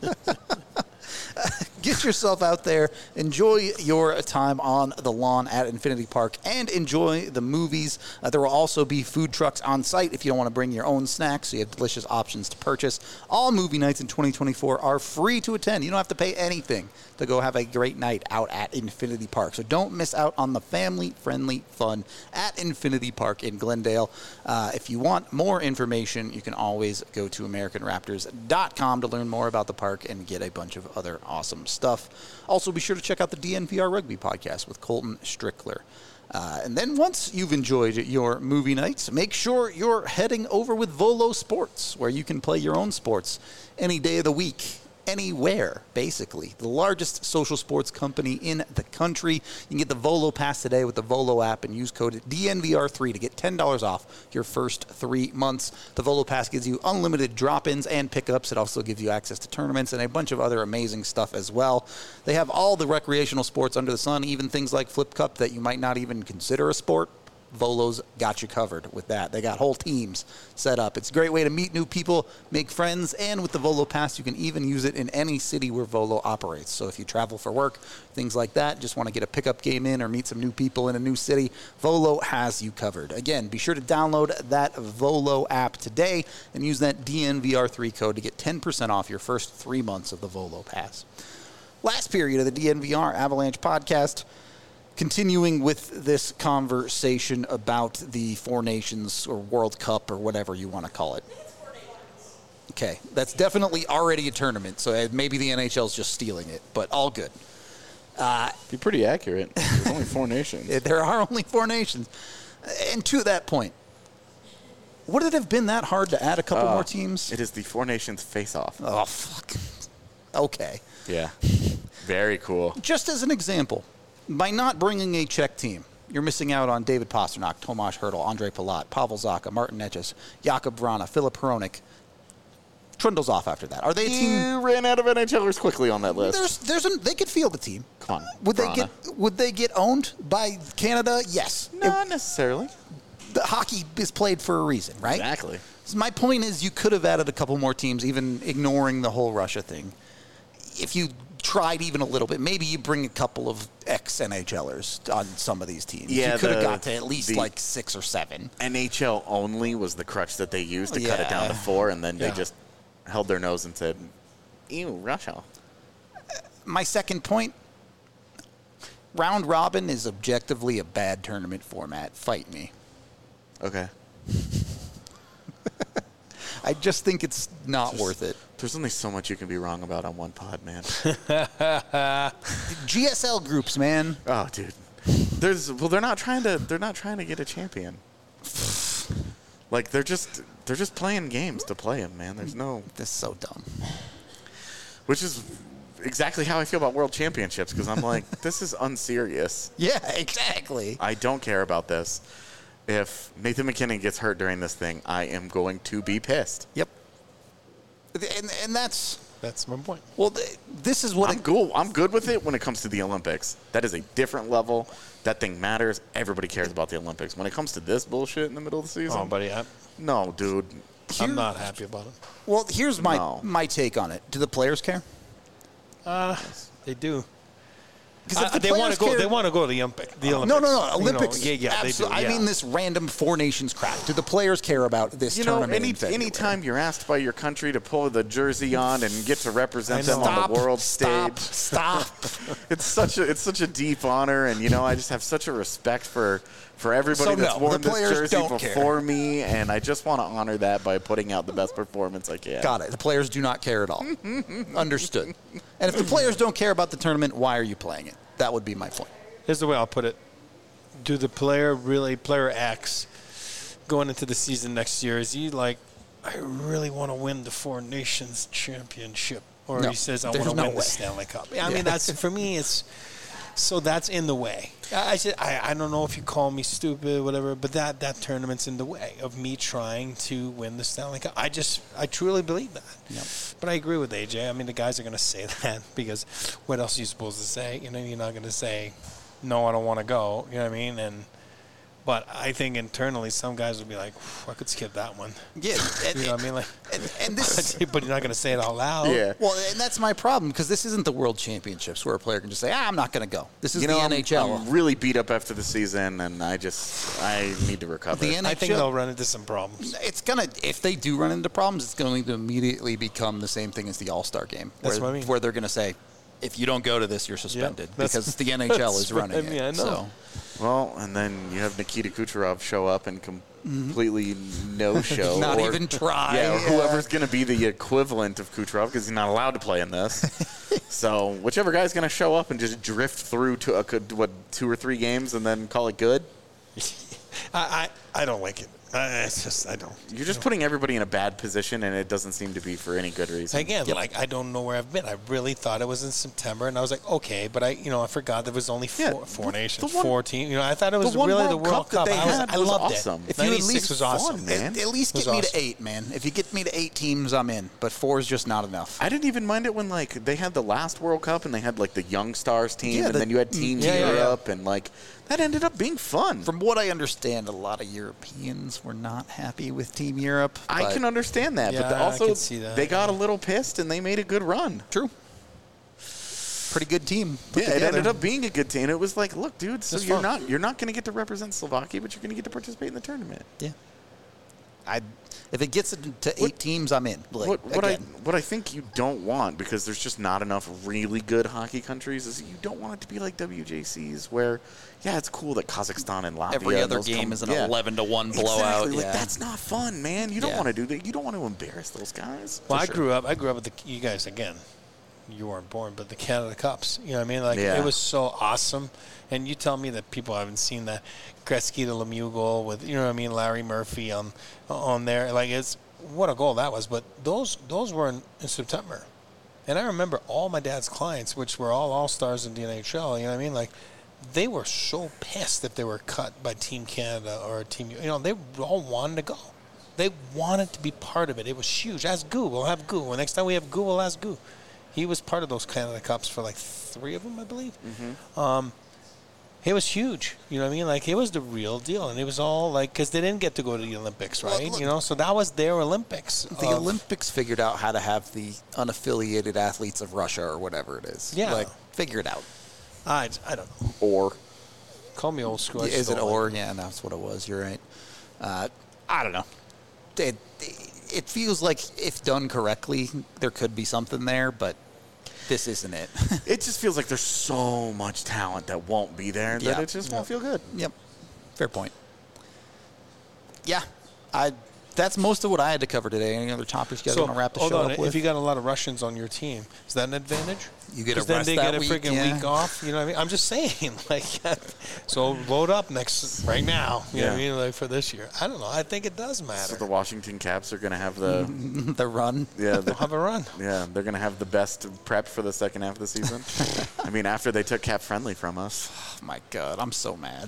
Get yourself out there, enjoy your time on the lawn at Infinity Park, and enjoy the movies. Uh, there will also be food trucks on site if you don't want to bring your own snacks, so you have delicious options to purchase. All movie nights in twenty twenty-four are free to attend. You don't have to pay anything to go have a great night out at Infinity Park. So don't miss out on the family-friendly fun at Infinity Park in Glendale. Uh, if you want more information, you can always go to American Raptors dot com to learn more about the park and get a bunch of other awesome stuff. Also, be sure to check out the D N V R Rugby podcast with Colton Strickler. Uh, and then once you've enjoyed your movie nights, make sure you're heading over with Volo Sports, where you can play your own sports any day of the week, anywhere, basically. The largest social sports company in the country. You can get the Volo Pass today with the Volo app and use code D N V R three to get ten dollars off your first three months. The Volo Pass gives you unlimited drop-ins and pickups. It also gives you access to tournaments and a bunch of other amazing stuff as well. They have all the recreational sports under the sun, even things like Flip Cup that you might not even consider a sport. Volo's got you covered with that. They got whole teams set up. It's a great way to meet new people, make friends, and with the Volo Pass, you can even use it in any city where Volo operates. So if you travel for work, things like that, just want to get a pickup game in or meet some new people in a new city, Volo has you covered. Again, be sure to download that Volo app today and use that D N V R three code to get ten percent off your first three months of the Volo Pass. Last period of the D N V R Avalanche podcast. Continuing with this conversation about the Four Nations or World Cup or whatever you want to call it. Okay, that's definitely already a tournament, so maybe the N H L's just stealing it, but all good. Uh, Be pretty accurate. There's only four nations. There are only four nations. And to that point, would it have been that hard to add a couple Uh, more teams? It is the Four Nations face-off. Oh, fuck. Okay. Yeah. Very cool. Just as an example, by not bringing a Czech team, you're missing out on David Pasternak, Tomáš Hertl, Andrej Palat, Pavel Zacha, Martin Necas, Jakub Vrana, Filip Hronek. Trundle's off after that. Are they a team? You ran out of NHLers quickly on that list. There's, there's an, they could field a team. Come on, Would they Vrana. get? Would they get owned by Canada? Yes. Not It- necessarily. the hockey is played for a reason, right? Exactly. So my point is, you could have added a couple more teams, even ignoring the whole Russia thing. If you tried even a little bit, maybe you bring a couple of ex-NHLers on some of these teams. Yeah, you could have the- got to at least the- like six or seven. N H L only was the crutch that they used to cut it down to Yeah. four, and then Yeah. they just held their nose and said, ew, Russia. My second point, round robin is objectively a bad tournament format. Fight me. Okay. I just think it's not worth it. There's only so much you can be wrong about on one pod, man. G S L groups, man. Oh, dude. There's well, they're not trying to. They're not trying to get a champion. Like they're just they're just playing games to play them, man. There's no. This is so dumb. Which is exactly how I feel about World Championships because I'm like, this is unserious. Yeah, exactly. I don't care about this. If Nathan McKinnon gets hurt during this thing, I am going to be pissed. Yep. And, and that's, That's my point. well, th- this is what I'm it, cool. I'm good with it when it comes to the Olympics. That is a different level. That thing matters. Everybody cares about the Olympics. When it comes to this bullshit in the middle of the season, Oh, buddy, I, no, dude. I'm not happy about it. well, here's my, No. my take on it. Do the players care? Uh, they do. Because Uh, they want to go. They want to go to the Olympic. The Olympics. No, no, no. You know, Olympics. yeah, yeah, absolutely. they do. I yeah. mean, this random Four Nations crap. Do the players care about this You know, tournament? any in February? anytime you're asked by your country to pull the jersey on and get to represent I them know. on the world stop, stage, Stop. it's such a it's such a deep honor, and you know I just have such a respect for for everybody So, that's no, worn the this players jersey don't care. before me, and I just want to honor that by putting out the best performance I can. Got it. The players do not care at all. Understood. And if the players don't care about the tournament, why are you playing it? That would be my point. Here's the way I'll put it. Do the player really, player X, going into the season next year, is he like, I really want to win the Four Nations Championship? Or No, he says, I there's want to no win way. the Stanley Cup. I Yeah. mean, that's for me, it's, so that's in the way. I, I, said, I, I don't know if you call me stupid, whatever, but that, that tournament's in the way of me trying to win the Stanley Cup. I just, I truly believe that. Yep. But I agree with A J. I mean, the guys are going to say that because what else are you supposed to say? You know, you're not going to say, no, I don't want to go. You know what I mean? And But I think internally, some guys would be like, I could skip that one. Yeah, and, You know what I mean? Like, and, and this is, but you're not going to say it out loud. Yeah. well, and that's my problem because this isn't the World Championships where a player can just say, ah, I'm not going to go. This is You know, the I'm, N H L. I'm really beat up after the season, and I just I need to recover. The N H L I think they'll run into some problems. It's gonna if they do run into problems, it's going to immediately become the same thing as the All Star game, That's where, what I mean. where they're going to say, if you don't go to this, you're suspended that's- because the N H L that's is what running I mean, it. I know. So Well, and then you have Nikita Kucherov show up and completely no-show. Not or- even try. Yeah, or Yeah. whoever's going to be the equivalent of Kucherov because he's not allowed to play in this. So whichever guy's going to show up and just drift through to a, good- what two or three games and then call it good. I, I, I don't like it. I, it's just, I don't. You're just putting everybody in a bad position, and it doesn't seem to be for any good reason. Again, like, I don't know where I've been. I really thought it was in September, and I was like, okay, but I, you know, I forgot there was only four, Yeah, four the- nations, the one- four teams. You know, I thought it was the one really World the World Cup Cup. that they I, was, had I was loved awesome. it. If you at ninety-six least was awesome. fun, man. at, at least It was get me awesome. to eight, man. If you get me to eight teams, I'm in. But four is just not enough. I didn't even mind it when like they had the last World Cup and they had like the Young Stars team, Yeah, and the- then you had Team Yeah, yeah, yeah. Europe, and like that ended up being fun. From what I understand, a lot of Europeans were not happy with Team Europe. I but- can understand that, Yeah, but I also can see that, they got yeah. a little pissed and they made a good run. True. Pretty good team. put Yeah, it together. ended up being a good team. It was like, look, dude, so It's you're fun. not you're not going to get to represent Slovakia, but you're going to get to participate in the tournament. Yeah. I if it gets it to eight What- teams, I'm in. Like, what what I again. what I think you don't want, because there's just not enough really good hockey countries, is you don't want it to be like W J Cs where, yeah, it's cool that Kazakhstan and Latvia Every and other those game come- is an yeah. eleven to one blowout. Exactly. Like, yeah. that's not fun, man. You don't Yeah. want to do that. You don't want to embarrass those guys. Well, For I sure. grew up. I grew up with the you guys again. You weren't born, but the Canada Cups. You know what I mean? Like Yeah. it was so awesome. And you tell me that people haven't seen that Gretzky to Lemieux goal with you know what I mean, Larry Murphy on on there. Like it's what a goal that was. But those those were in, in September, and I remember all my dad's clients, which were all all stars in the N H L. You know what I mean? Like they were so pissed if they were cut by Team Canada or Team. You know they all wanted to go. They wanted to be part of it. It was huge. Ask Goo. We'll have Goo. Well, next time we have Goo, we'll ask Goo. He was part of those Canada Cups for like three of them, I believe. Mm-hmm. Um, it was huge. You know what I mean? Like, it was the real deal. And it was all like, because they didn't get to go to the Olympics, Well, right? look- you know, so that was their Olympics. The of- Olympics figured out how to have the unaffiliated athletes of Russia or whatever it is. Yeah. Like, figure it out. I, I don't know. Or Call me old school. I Is just it don't or? like Yeah, that's what it was. You're right. Uh, I don't know. It, it feels like if done correctly, there could be something there, but this isn't it. it just feels like there's so much talent that won't be there that Yeah. it just won't feel good. Yep. Fair point. Yeah. I. That's most of what I had to cover today. Any other topics you guys So, want to wrap the hold show on. up with? If you got a lot of Russians on your team, is that an advantage? You get a 'Cause then rest they that get a week, freaking yeah. week off. You know what I mean? I'm just saying, like, so load up next right now. You know what I Yeah. mean? Like for this year, I don't know. I think it does matter. So the Washington Caps are going to have the the run. yeah the, They'll have a run. yeah they're going to have the best prep for the second half of the season. I mean, after they took Cap Friendly from us. Oh my God, I'm so mad.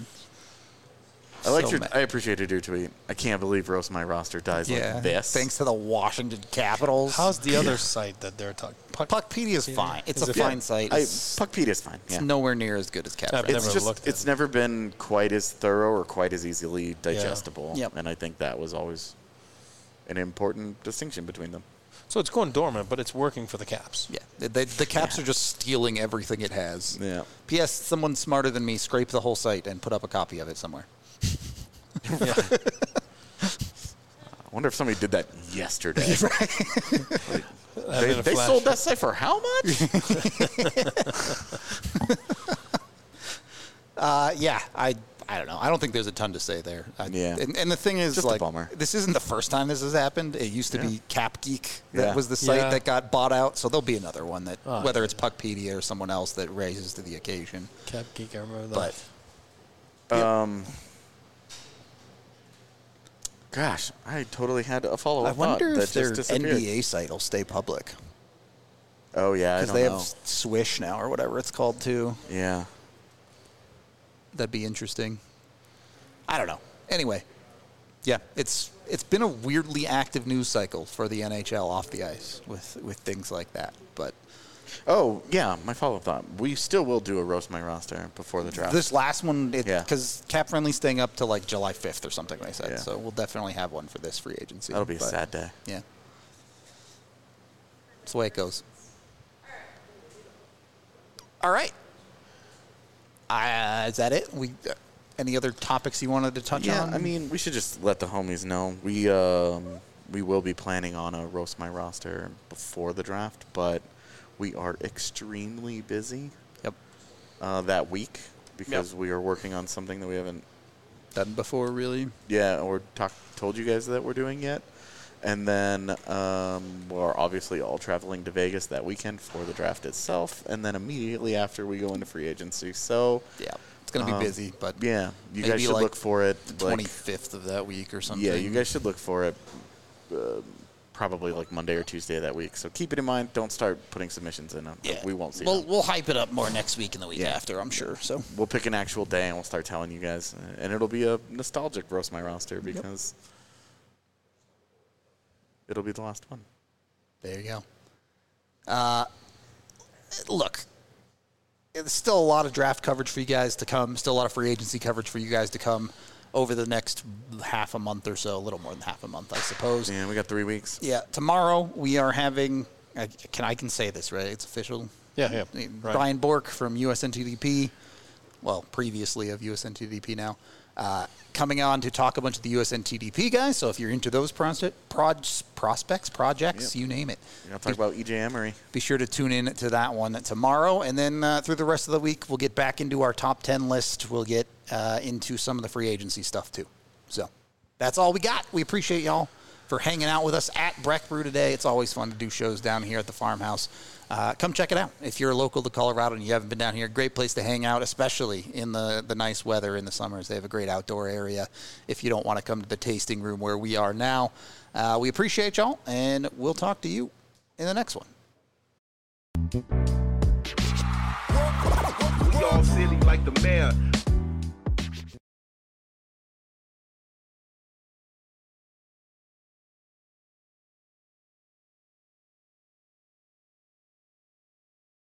I liked So your. mad. I appreciated your tweet. I can't believe roast my roster dies Yeah. like this. Thanks to the Washington Capitals. How's the other site that they're talking? Puck, Puckpedia is fine. It's Is a it- fine Yeah, site. I, It's, Puckpedia's fine. it's Yeah. nowhere near as good as Cap. I've Friendly. It's never just. looked at It's it. never been quite as thorough or quite as easily digestible. Yep. And I think that was always an important distinction between them. So it's going dormant, but it's working for the Caps. Yeah, the, the, the Caps are just stealing everything it has. Yeah. P S. Someone smarter than me scraped the whole site and put up a copy of it somewhere. Yeah. I wonder if somebody did that yesterday. Like, That they in a they flash. sold that site for how much? Uh, yeah, I I don't know. I don't think there's a ton to say there. I, Yeah. And, and the thing is, Just a like, bummer. this isn't the first time this has happened. It used to Yeah. be Cap Geek that Yeah. was the site Yeah. that got bought out. So there'll be another one that, Oh, whether it's Puckpedia or someone else that raises to the occasion. Cap Geek, I remember that. But Um. Gosh, I totally had a follow-up I wonder thought if that their just N disappeared. B A site will stay public Oh yeah, I because don't they know. have Swish now or whatever it's called too. Yeah. That'd be interesting. I don't know. Anyway, yeah, it's it's been a weirdly active news cycle for the N H L off the ice with with things like that. But Oh, yeah, my follow-up thought. We still will do a roast my roster before the draft. This last one, Yeah. because Cap Friendly's staying up to like July fifth or something, they said. Yeah. So we'll definitely have one for this free agency. That'll be a but, sad day. Yeah. That's the way it goes. All right. Uh, is that it? We uh, any other topics you wanted to touch Yeah, on? I mean, we should just let the homies know. We um, we will be planning on a roast my roster before the draft, but we are extremely busy Yep. uh, that week because we are working on something that we haven't, Done before, really. yeah, or talk, told you guys that we're doing yet. And then um, we're obviously all traveling to Vegas that weekend for the draft itself, and then immediately after we go into free agency. So Yeah. It's going to be um, busy, but yeah, you maybe guys should like look for it. the like- twenty-fifth of that week or something. Yeah, you guys should look for it uh, probably like Monday or Tuesday of that week. So keep it in mind. Don't start putting submissions in. Yeah. We won't see We'll, them. we'll hype it up more next week and the week Yeah. after, I'm sure. So We'll pick an actual day and we'll start telling you guys. Uh, And it'll be a nostalgic roast my roster because it'll be the last one. there you go. Uh, look, there's still a lot of draft coverage for you guys to come. Still a lot of free agency coverage for you guys to come over the next half a month or so, a little more than half a month, I suppose. Yeah, we got three weeks. Yeah, tomorrow we are having. I can I can say this, right? It's official. Yeah, yeah. Right. Brian Bork from U S N T D P, well, previously of U S N T D P now, uh, coming on to talk a bunch of the U S N T D P guys. So if you're into those prospect, proj- prospects, projects, Yep. you name it, We're going to talk about E J Emery. be sure to tune in to that one tomorrow. And then uh, through the rest of the week, we'll get back into our top ten list. We'll get uh, into some of the free agency stuff too. So that's all we got. We appreciate y'all for hanging out with us at Breck Brew today. It's always fun to do shows down here at the farmhouse. Uh, come check it out. If you're local to Colorado and you haven't been down here, great place to hang out, especially in the, the nice weather in the summers. They have a great outdoor area if you don't want to come to the tasting room where we are now. Uh, we appreciate y'all, and we'll talk to you in the next one. We all silly like the mayor.